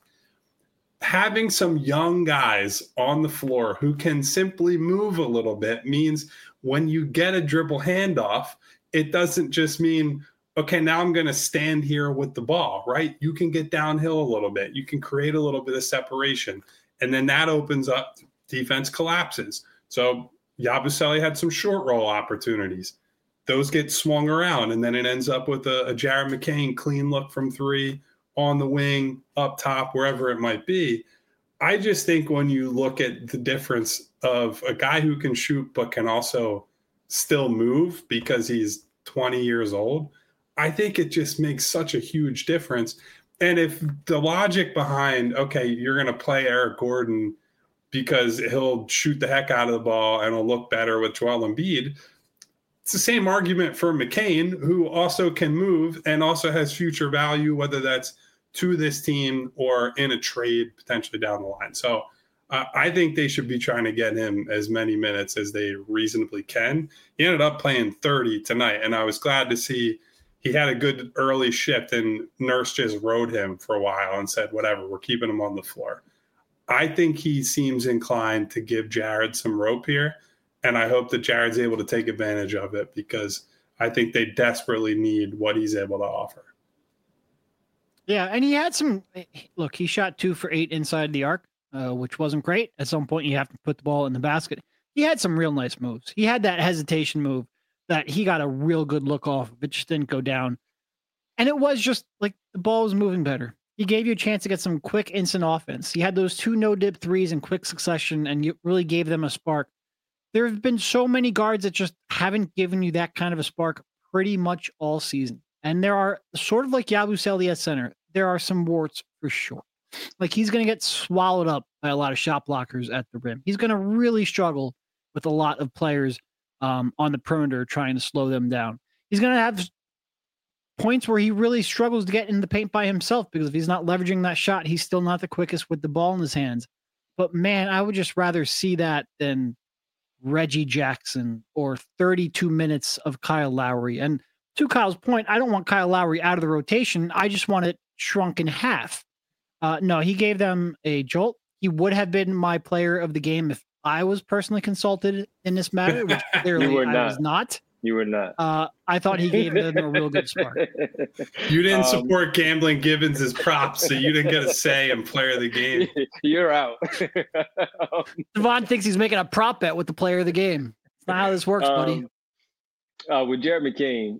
Having some young guys on the floor who can simply move a little bit means when you get a dribble handoff, it doesn't just mean, okay, now I'm going to stand here with the ball, right? You can get downhill a little bit. You can create a little bit of separation. And then that opens up, defense collapses. So Yabusele had some short roll opportunities. Those get swung around, and then it ends up with a Jared McCain clean look from 3 on the wing, up top, wherever it might be. I just think when you look at the difference of a guy who can shoot but can also still move because he's 20 years old, I think it just makes such a huge difference. And if the logic behind, okay, you're going to play Eric Gordon because he'll shoot the heck out of the ball and he'll look better with Joel Embiid, it's the same argument for McCain, who also can move and also has future value, whether that's to this team or in a trade potentially down the line. So I think they should be trying to get him as many minutes as they reasonably can. He ended up playing 30 tonight, and I was glad to see he had a good early shift, and Nurse just rode him for a while and said, whatever, we're keeping him on the floor. I think he seems inclined to give Jared some rope here, and I hope that Jared's able to take advantage of it because I think they desperately need what he's able to offer. Yeah, and he had some – look, he shot 2 for 8 inside the arc, which wasn't great. At some point, you have to put the ball in the basket. He had some real nice moves. He had that hesitation move that he got a real good look off. It just didn't go down. And it was just like the ball was moving better. He gave you a chance to get some quick instant offense. He had those 2 no-dip threes in quick succession, and you really gave them a spark. There have been so many guards that just haven't given you that kind of a spark pretty much all season. And there are, sort of like Yabusele at center, there are some warts for sure. Like, he's going to get swallowed up by a lot of shot blockers at the rim. He's going to really struggle with a lot of players on the perimeter trying to slow them down. He's going to have points where he really struggles to get in the paint by himself, because if he's not leveraging that shot, he's still not the quickest with the ball in his hands. But man, I would just rather see that than Reggie Jackson or 32 minutes of Kyle Lowry. And to Kyle's point, I don't want Kyle Lowry out of the rotation. I just want it shrunk in half. No, he gave them a jolt. He would have been my player of the game if I was personally consulted in this matter, which clearly I was not. You were not. I thought he gave them a real good spark. You didn't support Gambling Gibbons' props, so you didn't get a say in player of the game. You're out. Devon thinks he's making a prop bet with the player of the game. That's not how this works, buddy. With Jared McCain,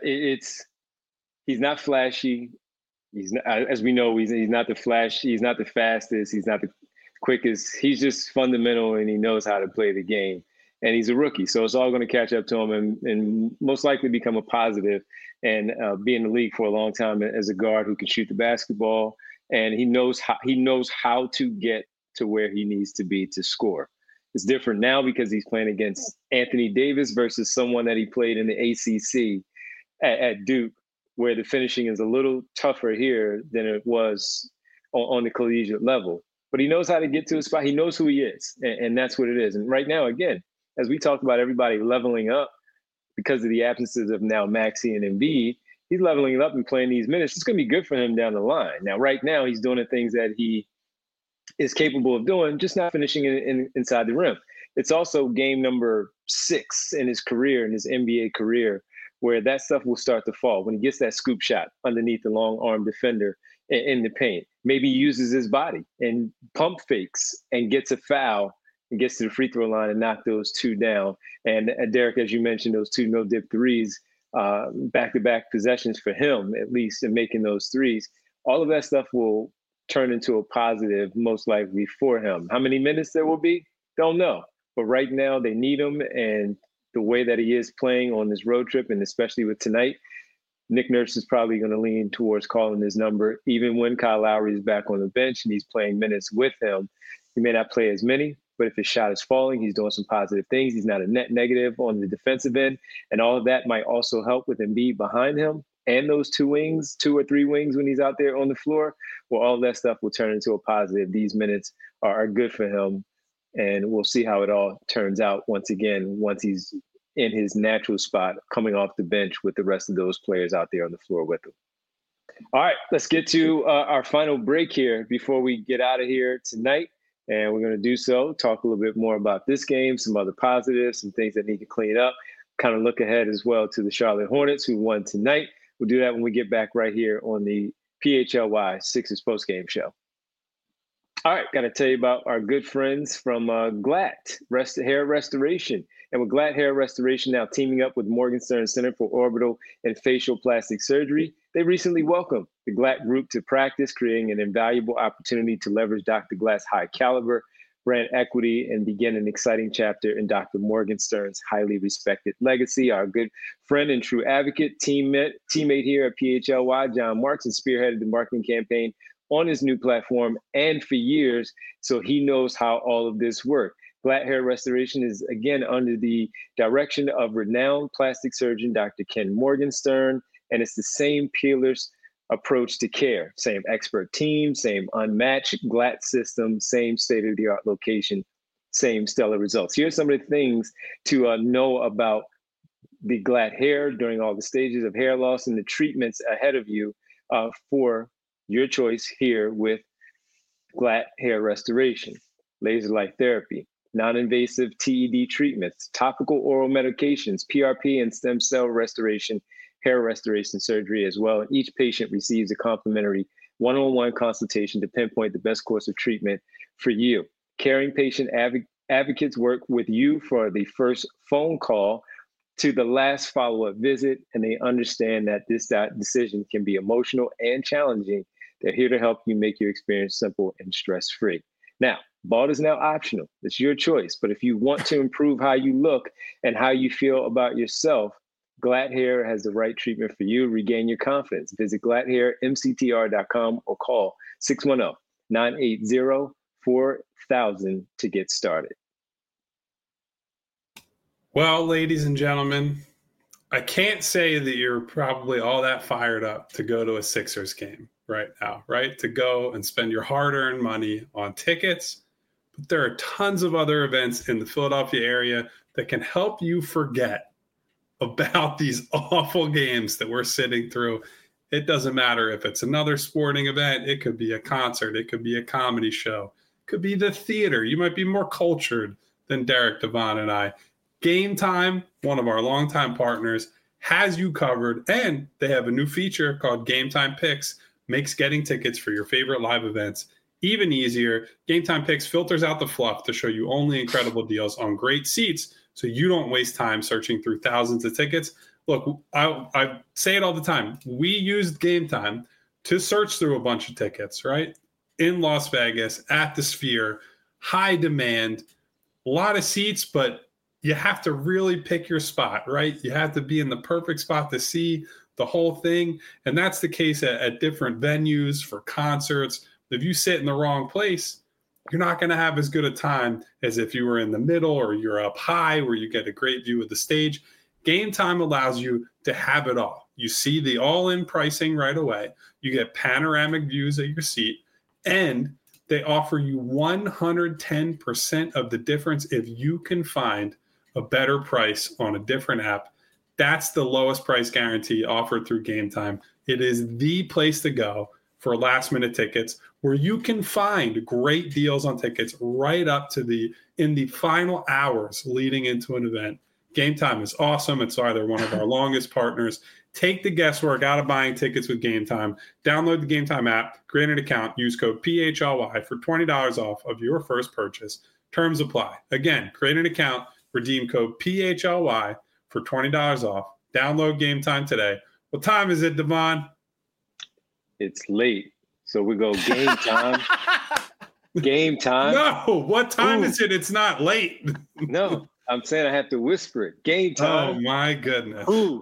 he's not flashy. He's not, as we know, he's not the flash. He's not the fastest. He's not the quickest. He's just fundamental, and he knows how to play the game. And he's a rookie, so it's all going to catch up to him and most likely become a positive and be in the league for a long time as a guard who can shoot the basketball. And he knows how to get to where he needs to be to score. It's different now because he's playing against Anthony Davis versus someone that he played in the ACC at Duke, where the finishing is a little tougher here than it was on the collegiate level. But he knows how to get to a spot. He knows who he is, and that's what it is. And right now, again, as we talked about everybody leveling up because of the absences of now Maxey and Embiid, he's leveling up and playing these minutes. It's going to be good for him down the line. Now, right now, he's doing the things that he is capable of doing, just not finishing inside the rim. It's also game number 6 in his career, in his NBA career, where that stuff will start to fall. When he gets that scoop shot underneath the long arm defender in the paint, maybe he uses his body and pump fakes and gets a foul and gets to the free throw line and knock those 2 down. And Derek, as you mentioned, those 2 no-dip threes, back-to-back possessions for him, at least, in making those threes. All of that stuff will turn into a positive, most likely, for him. How many minutes there will be? Don't know. But right now, they need him. And the way that he is playing on this road trip, and especially with tonight, Nick Nurse is probably going to lean towards calling his number, even when Kyle Lowry is back on the bench and he's playing minutes with him. He may not play as many, but if his shot is falling, he's doing some positive things. He's not a net negative on the defensive end. And all of that might also help with Embiid behind him and those 2 wings, 2 or 3 wings when he's out there on the floor. Well, all that stuff will turn into a positive. These minutes are good for him. And we'll see how it all turns out once he's in his natural spot, coming off the bench with the rest of those players out there on the floor with him. All right, let's get to our final break here before we get out of here tonight. And we're going to do so, talk a little bit more about this game, some other positives, some things that need to clean up, kind of look ahead as well to the Charlotte Hornets, who won tonight. We'll do that when we get back right here on the PHLY Sixers postgame show. All right, got to tell you about our good friends from Glatt Hair Restoration. And with Glatt Hair Restoration now teaming up with Morgenstern Center for Orbital and Facial Plastic Surgery, they recently welcomed the Glatt Group to practice, creating an invaluable opportunity to leverage Dr. Glatt's high caliber, brand equity, and begin an exciting chapter in Dr. Morgenstern's highly respected legacy. Our good friend and true advocate, teammate here at PHLY, John Marks, spearheaded the marketing campaign on his new platform and for years, so he knows how all of this works. Glatt Hair Restoration is, again, under the direction of renowned plastic surgeon Dr. Ken Morgenstern, and it's the same peerless approach to care. Same expert team, same unmatched Glatt system, same state-of-the-art location, same stellar results. Here's some of the things to know about the Glatt hair during all the stages of hair loss and the treatments ahead of you for your choice here with Glatt Hair Restoration. Laser light therapy, non-invasive TED treatments, topical oral medications, PRP and stem cell restoration, hair restoration surgery as well. And each patient receives a complimentary one-on-one consultation to pinpoint the best course of treatment for you. Caring patient advocates work with you for the first phone call to the last follow-up visit, and they understand that this decision can be emotional and challenging. They're here to help you make your experience simple and stress-free. Now, bald is now optional. It's your choice. But if you want to improve how you look and how you feel about yourself, Glad Hair has the right treatment for you. Regain your confidence. Visit gladhairmctr.com or call 610-980-4000 to get started. Well, ladies and gentlemen, I can't say that you're probably all that fired up to go to a Sixers game right now, right? To go and spend your hard-earned money on tickets. But there are tons of other events in the Philadelphia area that can help you forget about these awful games that we're sitting through. It doesn't matter if it's another sporting event. It could be a concert. It could be a comedy show. It could be the theater. You might be more cultured than Derek, Devon, and I. Game Time, one of our longtime partners, has you covered, and they have a new feature called Game Time Picks, makes getting tickets for your favorite live events even easier. Game Time Picks filters out the fluff to show you only incredible deals on great seats so you don't waste time searching through thousands of tickets. Look, I say it all the time. We used Game Time to search through a bunch of tickets, right? In Las Vegas, at the Sphere, high demand, a lot of seats, but you have to really pick your spot, right? You have to be in the perfect spot to see the whole thing. And that's the case at different venues for concerts. If you sit in the wrong place, you're not going to have as good a time as if you were in the middle or you're up high where you get a great view of the stage. Game Time allows you to have it all. You see the all-in pricing right away. You get panoramic views of your seat, and they offer you 110% of the difference if you can find a better price on a different app. That's the lowest price guarantee offered through Game Time. It is the place to go for last-minute tickets, where you can find great deals on tickets right up to in the final hours leading into an event. Game Time is awesome. It's either one of our longest partners. Take the guesswork out of buying tickets with Game Time. Download the Game Time app, create an account, use code PHLY for $20 off of your first purchase. Terms apply. Again, create an account, redeem code PHLY for $20 off. Download Game Time today. What time is it, Devon? It's late, so we go Game Time. Game Time. No, what time is it? It's not late. No, I'm saying I have to whisper it. Game Time. Oh, my goodness. Ooh.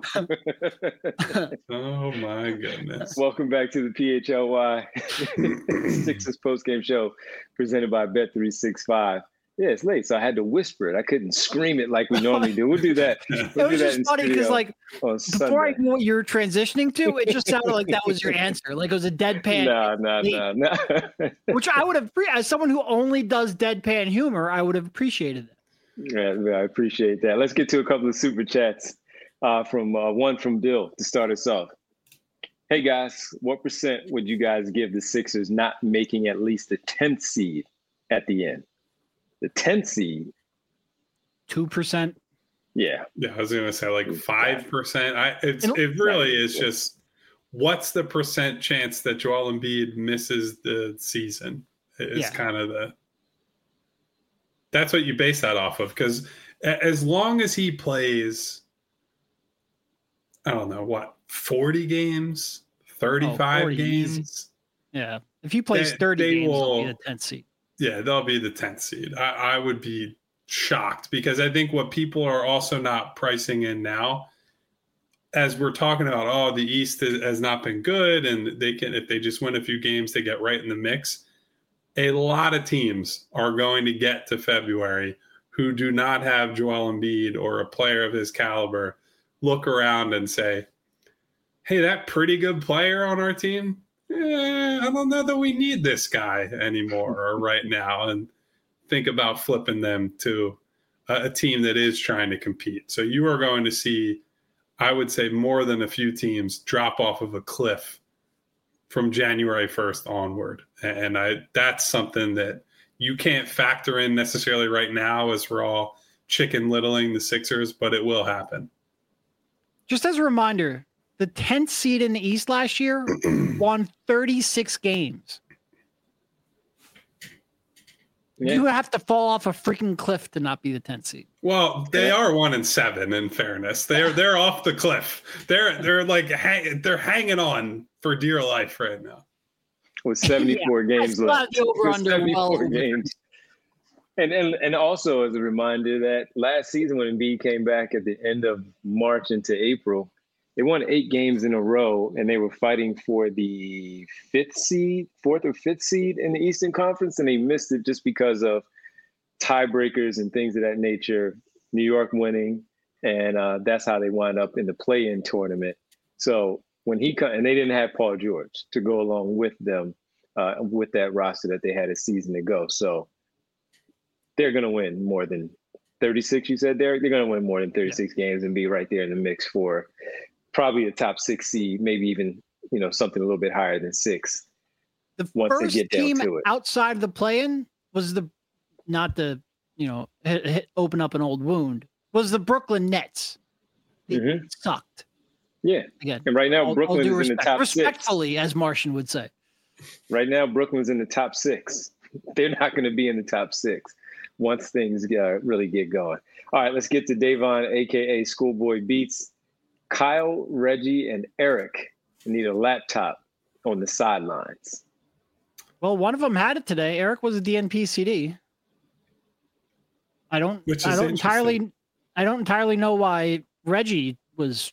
Oh, my goodness. Welcome back to the PHLY Sixers postgame show presented by Bet365. Yeah, it's late, so I had to whisper it. I couldn't scream it like we normally do. We'll do that. It was just funny because, like, before I knew what you were transitioning to, it just sounded like that was your answer. Like it was a deadpan. No. Which I would have, as someone who only does deadpan humor, I would have appreciated it. Yeah, I appreciate that. Let's get to a couple of super chats. One from Bill to start us off. Hey guys, what % would you guys give the Sixers not making at least the 10th seed at the end? The 10th seed. 2%. Yeah. Yeah, I was going to say like 5%. It really is just what's the % chance that Joel Embiid misses the season? It's kind of that's what you base that off of. Because as long as he plays, I don't know, 40 games, 35 games? Easy. Yeah. If he plays 30 games, he'll be the 10th seed. Yeah, they'll be the 10th seed. I would be shocked because I think what people are also not pricing in now, as we're talking about, the East has not been good, and they can, if they just win a few games, they get right in the mix. A lot of teams are going to get to February who do not have Joel Embiid or a player of his caliber look around and say, hey, that pretty good player on our team, I don't know that we need this guy anymore or right now, and think about flipping them to a team that is trying to compete. So you are going to see, I would say, more than a few teams drop off of a cliff from January 1st onward. And that's something that you can't factor in necessarily right now as we're all chicken littling the Sixers, but it will happen. Just as a reminder, the 10th seed in the East last year won 36 games. Yeah. You have to fall off a freaking cliff to not be the 10th seed. Well, they are 1-7. In fairness, they're off the cliff. They're like they're hanging on for dear life right now. With 74 games left. The over-under 74 games. And also as a reminder that last season when Embiid came back at the end of March into April, they won 8 games in a row, and they were fighting for the 4th or 5th seed in the Eastern Conference, and they missed it just because of tiebreakers and things of that nature. New York winning, and that's how they wind up in the play-in tournament. So when and they didn't have Paul George to go along with them with that roster that they had a season ago. So they're going to win more than 36. You said they're going to win more than 36 games and be right there in the mix for probably a top 6 seed, maybe even something a little bit higher than 6. The once first they get down team to it. outside the play-in was open up an old wound, was the Brooklyn Nets. They sucked. Yeah. Again, and right now Brooklyn is in the top 6. Respectfully, as Martian would say. Right now Brooklyn's in the top 6. They're not going to be in the top 6 once things really get going. All right, let's get to Davon, a.k.a. Schoolboy Beats. Kyle, Reggie, and Eric need a laptop on the sidelines. Well, one of them had it today. Eric was a DNP CD. I don't entirely know why Reggie was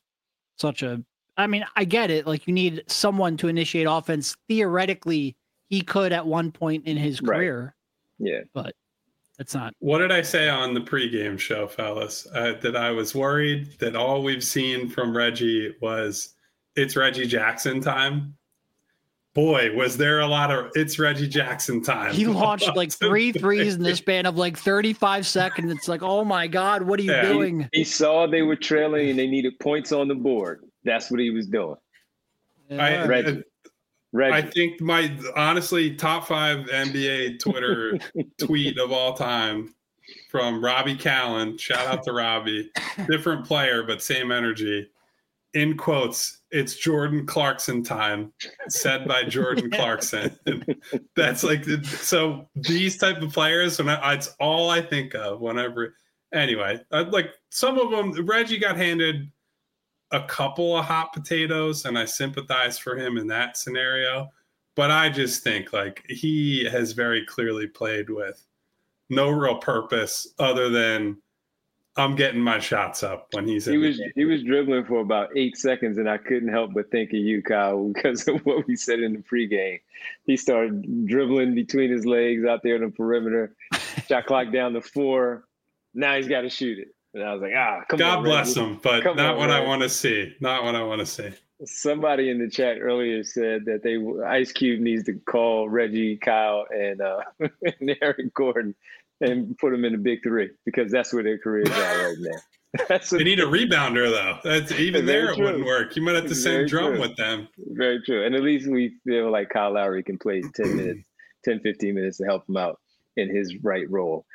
I get it. Like, you need someone to initiate offense. Theoretically, he could at one point in his career. Yeah. But it's not. What did I say on the pregame show, fellas? That I was worried that all we've seen from Reggie was it's Reggie Jackson time. Boy, was there a lot of it's Reggie Jackson time. He launched like 3 threes in the span of like 35 seconds. It's like, oh my God, what are you doing? He saw they were trailing and they needed points on the board. That's what he was doing. Yeah. Reggie. I think my honestly top 5 NBA Twitter tweet of all time from Robbie Callen. Shout out to Robbie. Different player, but same energy. In quotes, it's Jordan Clarkson time, said by Jordan Clarkson. That's like, so these type of players, it's all I think of whenever. Anyway, like some of them, Reggie got handed a couple of hot potatoes, and I sympathize for him in that scenario. But I just think like he has very clearly played with no real purpose other than I'm getting my shots up when he was dribbling for about 8 seconds, and I couldn't help but think of you, Kyle, because of what we said in the pregame. He started dribbling between his legs out there on the perimeter, shot clock down to 4. Now he's got to shoot it. And I was like, come on. God bless him, but not what I want to see. Not what I want to see. Somebody in the chat earlier said that Ice Cube needs to call Reggie, Kyle, and Eric Gordon and put them in the big 3 because that's where their careers are right now. They need a rebounder, though. That's even there. It wouldn't work. You might have to send Drum with them. Very true. And at least we feel like Kyle Lowry can play 10, 15 minutes to help him out in his right role.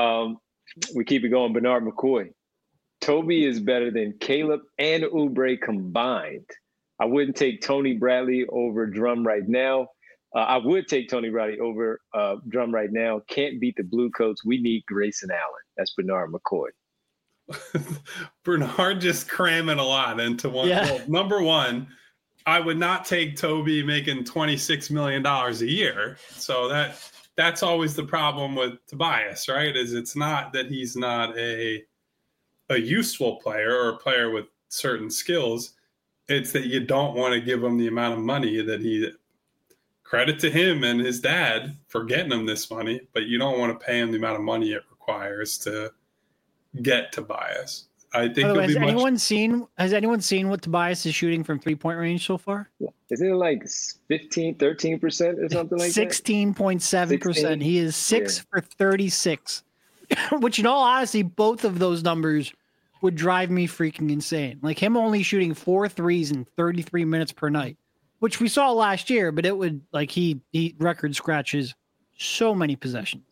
We keep it going. Bernard McCoy. Toby is better than Caleb and Oubre combined. I wouldn't take Tony Bradley over Drum right now. I would take Tony Bradley over Drum right now. Can't beat the Blue Coats. We need Grayson Allen. That's Bernard McCoy. Bernard just cramming a lot into one. Yeah. Well, number one, I would not take Toby making $26 million a year. So that's always the problem with Tobias, right? Is it's not that he's not a useful player or a player with certain skills. It's that you don't want to give him the amount of money that he – credit to him and his dad for getting him this money, but you don't want to pay him the amount of money it requires to get Tobias. I think has anyone seen what Tobias is shooting from 3-point range so far? Isn't it like 13% or something like 16.7%. He is 6 for 36, which in all honesty, both of those numbers would drive me freaking insane. Like him only shooting 4 threes in 33 minutes per night, which we saw last year, but it would like he record scratches so many possessions.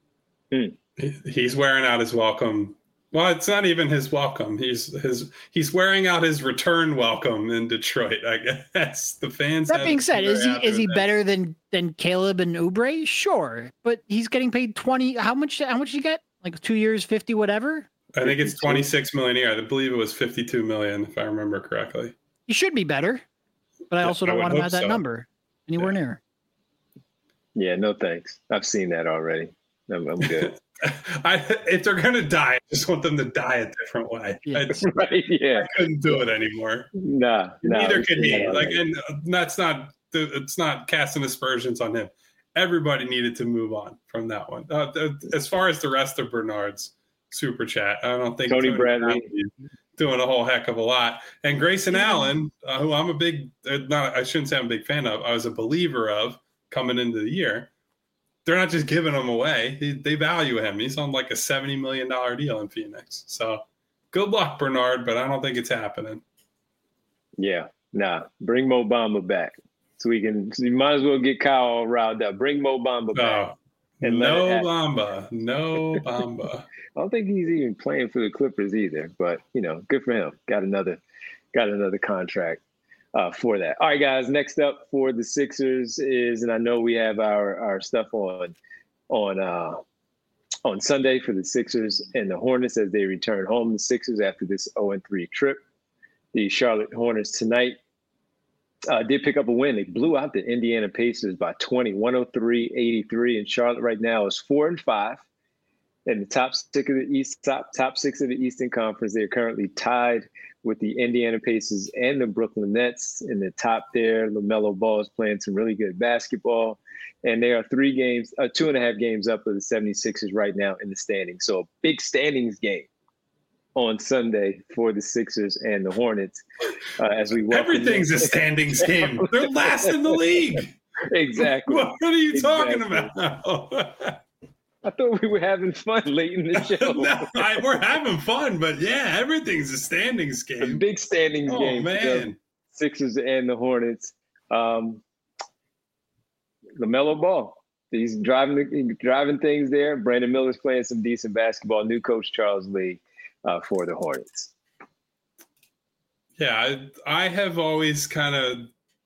He's wearing out his welcome. Well, it's not even his welcome. He's wearing out his return welcome in Detroit. I guess the fans. That being said, is he better than Caleb and Oubre? Sure, but he's getting paid 20. How much did he get? Like 2 years, 50, whatever. I think it's 26 million a year. I believe it was 52 million, if I remember correctly. He should be better, but I also don't want him at that number anywhere near. Yeah, no thanks. I've seen that already. I'm good. If they're gonna die, I just want them to die a different way. Yeah. Right? Yeah. I couldn't do it anymore. Nah. Neither could he. Like, and that's not. It's not casting aspersions on him. Everybody needed to move on from that one. As far as the rest of Bernard's super chat, I don't think Tony Bradley doing a whole heck of a lot. And Grayson Allen, who I'm a big, I shouldn't say I'm a big fan of, I was a believer of coming into the year. They're not just giving him away. They value him. He's on like a $70 million deal in Phoenix. So good luck, Bernard, but I don't think it's happening. Yeah, nah. Bring Mo Bamba back. So you might as well get Kyle all riled up. Bring Mo Bamba back. No Bamba. I don't think he's even playing for the Clippers either, but good for him. Got another contract for that. All right, guys. Next up for the Sixers is, and I know we have our stuff on Sunday for the Sixers and the Hornets as they return home. The Sixers after this 0-3 trip. The Charlotte Hornets tonight did pick up a win. They blew out the Indiana Pacers by 20, 103-83. And Charlotte right now is 4-5. In the top six of the Eastern Conference, they are currently tied with the Indiana Pacers and the Brooklyn Nets. In the top there, LaMelo Ball is playing some really good basketball. And they are 2.5 games up of the 76ers right now in the standings. So a big standings game on Sunday for the Sixers and the Hornets. As we everything's a standings game. They're last in the league. Exactly. What are you talking about? I thought we were having fun late in the show. No, we're having fun, but yeah, everything's a standings game. A big standings game. Oh, man. Sixers and the Hornets. LaMelo Ball. He's driving things there. Brandon Miller's playing some decent basketball. New coach Charles Lee for the Hornets. Yeah, I have always kind of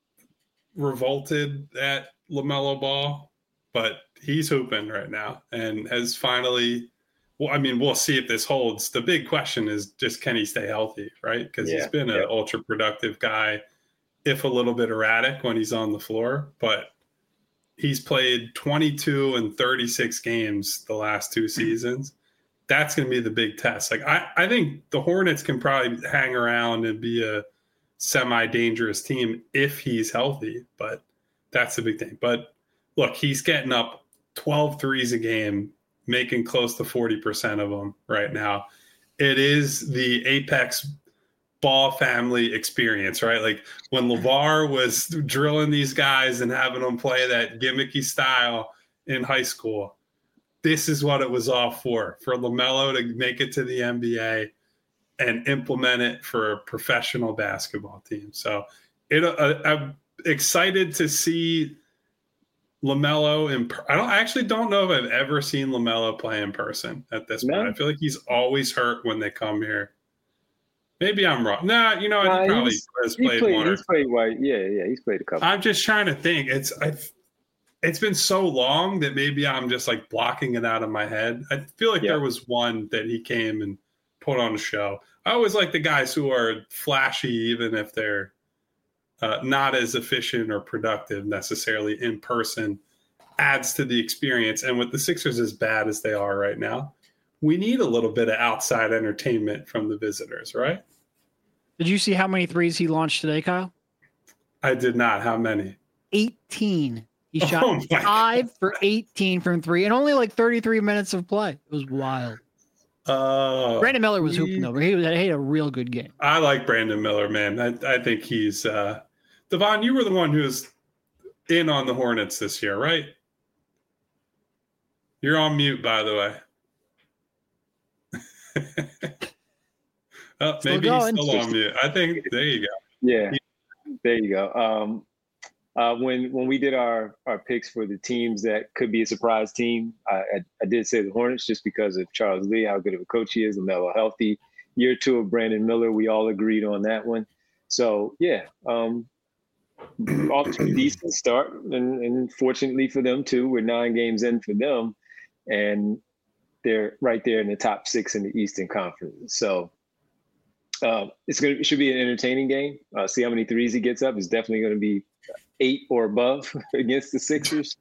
revolted at LaMelo Ball, but he's hooping right now and has finally, we'll see if this holds. The big question is just, can he stay healthy, right? Because he's been an ultra productive guy, if a little bit erratic when he's on the floor, but he's played 22 and 36 games the last two seasons. That's going to be the big test. Like, I think the Hornets can probably hang around and be a semi-dangerous team if he's healthy, but that's the big thing. But look, he's getting up 12 threes a game, making close to 40% of them right now. It is the apex Ball family experience, right? Like when LeVar was drilling these guys and having them play that gimmicky style in high school, this is what it was all for LaMelo to make it to the NBA and implement it for a professional basketball team. So I'm excited to see LaMelo I actually don't know if I've ever seen LaMelo play in person at this point. I feel like he's always hurt when they come here. Maybe I'm wrong. He probably has played one. He's played white. Yeah, he's played a couple. I'm just trying to think. It's been so long that maybe I'm just like blocking it out of my head. I feel like there was one that he came and put on a show. I always like the guys who are flashy, even if they're not as efficient or productive necessarily in person, adds to the experience. And with the Sixers as bad as they are right now, we need a little bit of outside entertainment from the visitors, right? Did you see how many threes he launched today, Kyle? I did not. How many? 18. He shot 5 for 18 from three and only like 33 minutes of play. It was wild. Brandon Miller was hooping over. He had a real good game. I like Brandon Miller, man. I think he's Devon, you were the one who was in on the Hornets this year, right? You're on mute, by the way. Maybe he's still on mute. I think there you go. Yeah, there you go. When we did our picks for the teams that could be a surprise team, I did say the Hornets just because of Charles Lee, how good of a coach he is, LaMelo healthy. Year two of Brandon Miller, we all agreed on that one. So off to a decent start, and fortunately for them too, we're 9 games in for them, and they're right there in the top 6 in the Eastern Conference. So It should be an entertaining game. See how many threes he gets up. It's definitely going to be 8 or above against the Sixers.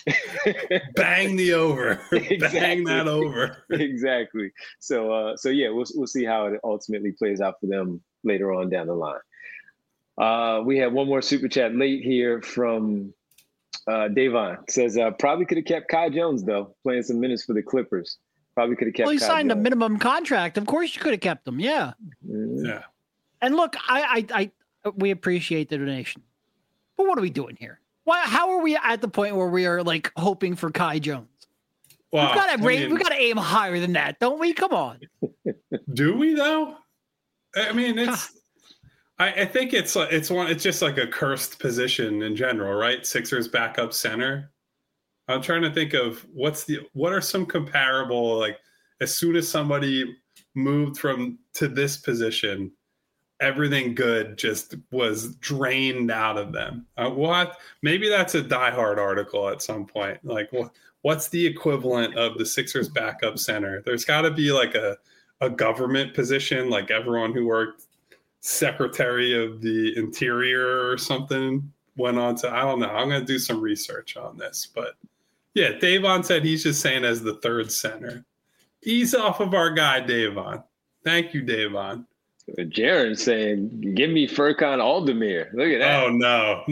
Bang the over. Exactly. Bang that over. Exactly. So yeah, we'll see how it ultimately plays out for them later on down the line. We have one more super chat late here from Davon. Says probably could have kept Kai Jones though, playing some minutes for the Clippers. Probably could have kept. Well, he Kai signed Jones. a minimum contract. Of course, you could have kept him. Yeah. Mm-hmm. Yeah. And look, we appreciate the donation, but what are we doing here? Why? How are we at the point where we are like hoping for Kai Jones? Well, we got to aim higher than that, don't we? Come on. Do we though? I mean, it's. I think it's just like a cursed position in general, right? Sixers backup center. I'm trying to think of what are some comparable, like as soon as somebody moved to this position, everything good just was drained out of them. Maybe that's a Die Hard article at some point. Like what's the equivalent of the Sixers backup center? There's got to be like a government position, like everyone who worked Secretary of the Interior or something went on to, I don't know. I'm going to do some research on this, but yeah, Davon said he's just saying as the third center. Ease off of our guy, Davon. Thank you, Davon. Jaron saying, "Give me Furkan Aldemir." Look at that. Oh no.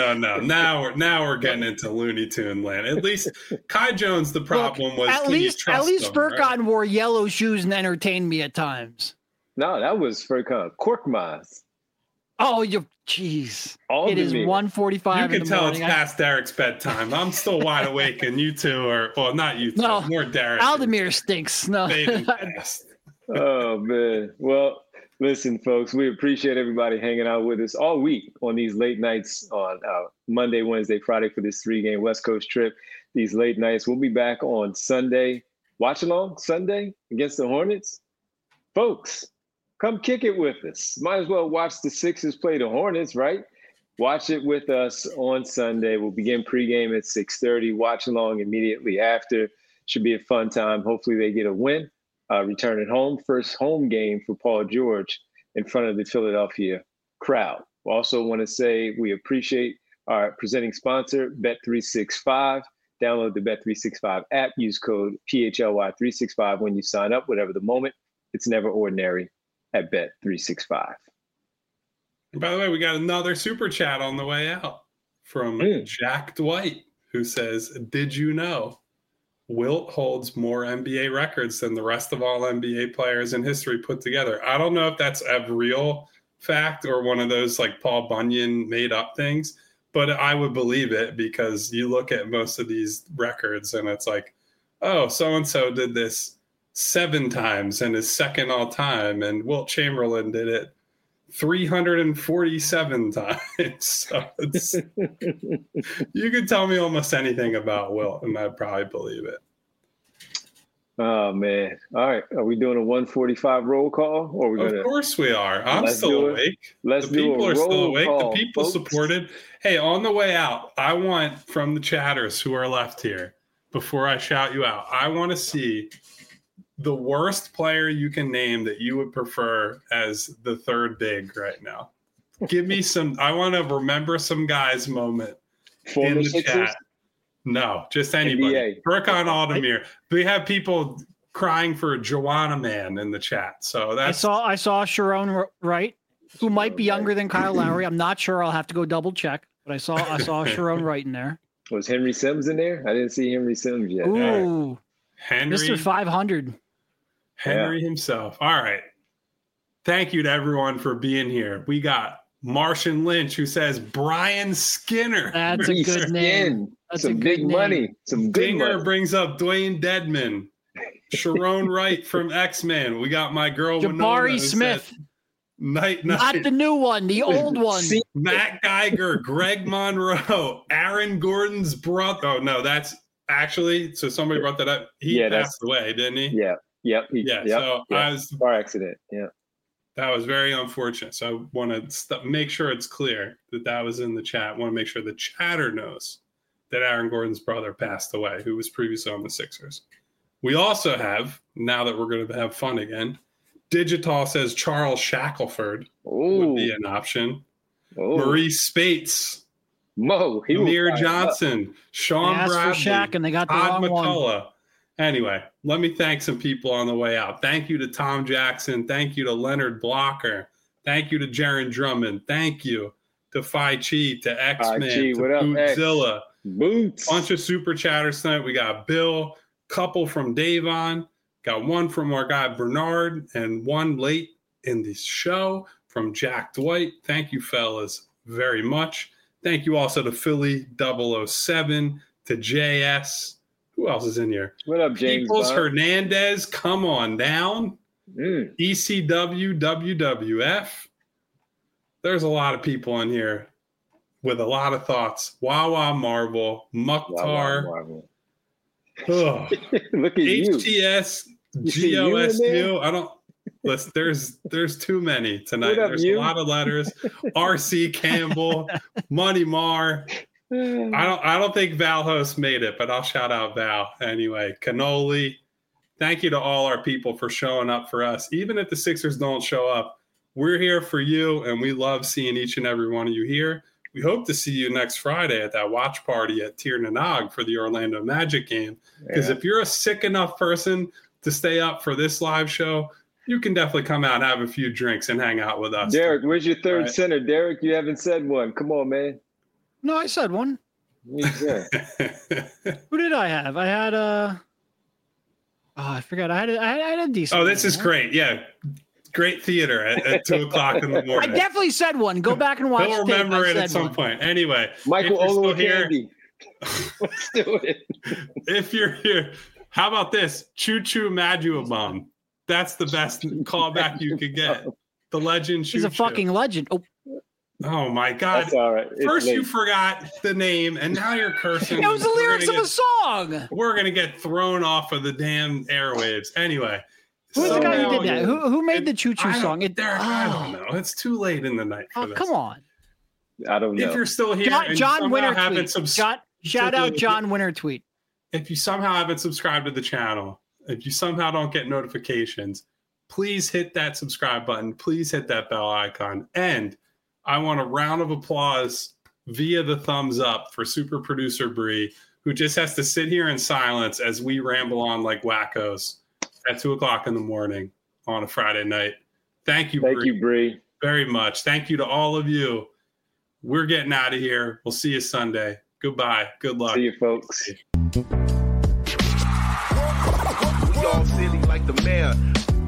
Now we're getting into Looney Tune land. At least Kai Jones. The problem was at least Furkan right? wore yellow shoes and entertained me at times. No, that was Furkan Korkmaz. Oh, jeez. It is 1:45 in the morning. You can tell it's past Derek's bedtime. I'm still wide awake, and you two are, well, not you two, no, more Derek. Aldemir stinks. No. Oh, man. Well, listen, folks, we appreciate everybody hanging out with us all week on these late nights on Monday, Wednesday, Friday for this 3-game West Coast trip. These late nights. We'll be back on Sunday. Watch along Sunday against the Hornets. Folks, come kick it with us. Might as well watch the Sixers play the Hornets, right? Watch it with us on Sunday. We'll begin pregame at 6:30. Watch along immediately after. Should be a fun time. Hopefully they get a win. Return at home. First home game for Paul George in front of the Philadelphia crowd. We also want to say we appreciate our presenting sponsor, Bet365. Download the Bet365 app. Use code PHLY365 when you sign up. Whatever the moment, it's never ordinary at Bet365. And by the way, we got another super chat on the way out from Jack Dwight, who says, "Did you know Wilt holds more NBA records than the rest of all NBA players in history put together?" I don't know if that's a real fact or one of those like Paul Bunyan made up things, but I would believe it because you look at most of these records and it's like, oh, so-and-so did this 7 times and is second all time, and Wilt Chamberlain did it 347 times. So you could tell me almost anything about Wilt and I'd probably believe it. Oh man. All right. Are we doing a 145 roll call? Or are we gonna... Of course we are. I'm still awake. The people are still awake. The people supported. Hey, on the way out, I want from the chatters who are left here, before I shout you out, I want to see the worst player you can name that you would prefer as the third big right now. Give me some. I want to remember some guy's moment in the chat. No, just anybody. Furkan Aldemir. We have people crying for Joanna Man in the chat. So that's. I saw Sharon Wright, who might be younger than Kyle Lowry. I'm not sure. I'll have to go double check. But I saw Sharon Wright in there. Was Henry Sims in there? I didn't see Henry Sims yet. Ooh, Henry, Mr. 500. Henry himself. All right. Thank you to everyone for being here. We got Martian Lynch, who says Brian Skinner. That's a good name. That's some big money. Some big Dinger money. brings up Dwayne Dedman. Sharon Wright from X-Men. We got my girl Jabari Smith. Night. Not the new one, the old one. Matt Geiger, Greg Monroe, Aaron Gordon's brother. Oh no, that's actually, so somebody brought that up. He passed away, didn't he? Yeah. Yep. I was car accident. Yeah. That was very unfortunate. So I want to make sure it's clear that was in the chat. I want to make sure the chatter knows that Aaron Gordon's brother passed away, who was previously on the Sixers. We also have, now that we're going to have fun again, Digital says Charles Shackelford Ooh. would be an option. Ooh. Maurice Spates. Mo. Amir Johnson. Sean They asked Bradley. for Shaq and they got the Todd wrong one. McCullough. Anyway, let me thank some people on the way out. Thank you to Tom Jackson. Thank you to Leonard Blocker. Thank you to Jaron Drummond. Thank you to Phi Chi, to X-Man, to Bootzilla. Boots. Bunch of super chatters tonight. We got Bill, couple from Davon, got one from our guy Bernard, and one late in the show from Jack Dwight. Thank you, fellas, very much. Thank you also to Philly 007, to JS. Who else is in here? What up, James? Peoples Hernandez, come on down. ECW, WWF. There's a lot of people in here with a lot of thoughts. Wawa Marvel, Mukhtar. Look at HTS, GOSU. I don't. Listen, there's too many tonight. There's a lot of letters. RC Campbell, Money Mar. I don't think Val Host made it, but I'll shout out Val anyway. Cannoli. Thank you to all our people for showing up for us. Even if the Sixers don't show up, we're here for you, and we love seeing each and every one of you here. We hope to see you next Friday at that watch party at Tir Nanog for the Orlando Magic game. Because if you're a sick enough person to stay up for this live show, you can definitely come out and have a few drinks and hang out with us. Derek, where's your third center? Derek, you haven't said one. Come on, man. No, I said one. Who did I have? I had I forgot. I had a decent. Oh, this is great. Yeah. Great theater at 2 o'clock in the morning. I definitely said one. Go back and watch. He'll remember it at some point. Anyway, Michael Olowokandi. Let's do it. If you're here, how about this? Choo Choo Maduabum. That's the best callback you could get. The legend. He's a fucking legend. Oh my God. That's all right. First you forgot the name and now you're cursing. It was the lyrics of a song. We're going to get thrown off of the damn airwaves. Anyway. Who's the guy who did that? Who made the Choo Choo song? I don't know. It's too late in the night for this. Come on. I don't know. If you're still here John Winter tweet. Shout out John Winter tweet. If you somehow haven't subscribed to the channel, if you somehow don't get notifications, please hit that subscribe button. Please hit that bell icon. And I want a round of applause via the thumbs up for super producer Bree, who just has to sit here in silence as we ramble on like wackos at 2 o'clock in the morning on a Friday night. Thank you, Bree. Very much. Thank you to all of you. We're getting out of here. We'll see you Sunday. Goodbye. Good luck. See you, folks. We all silly like the mayor.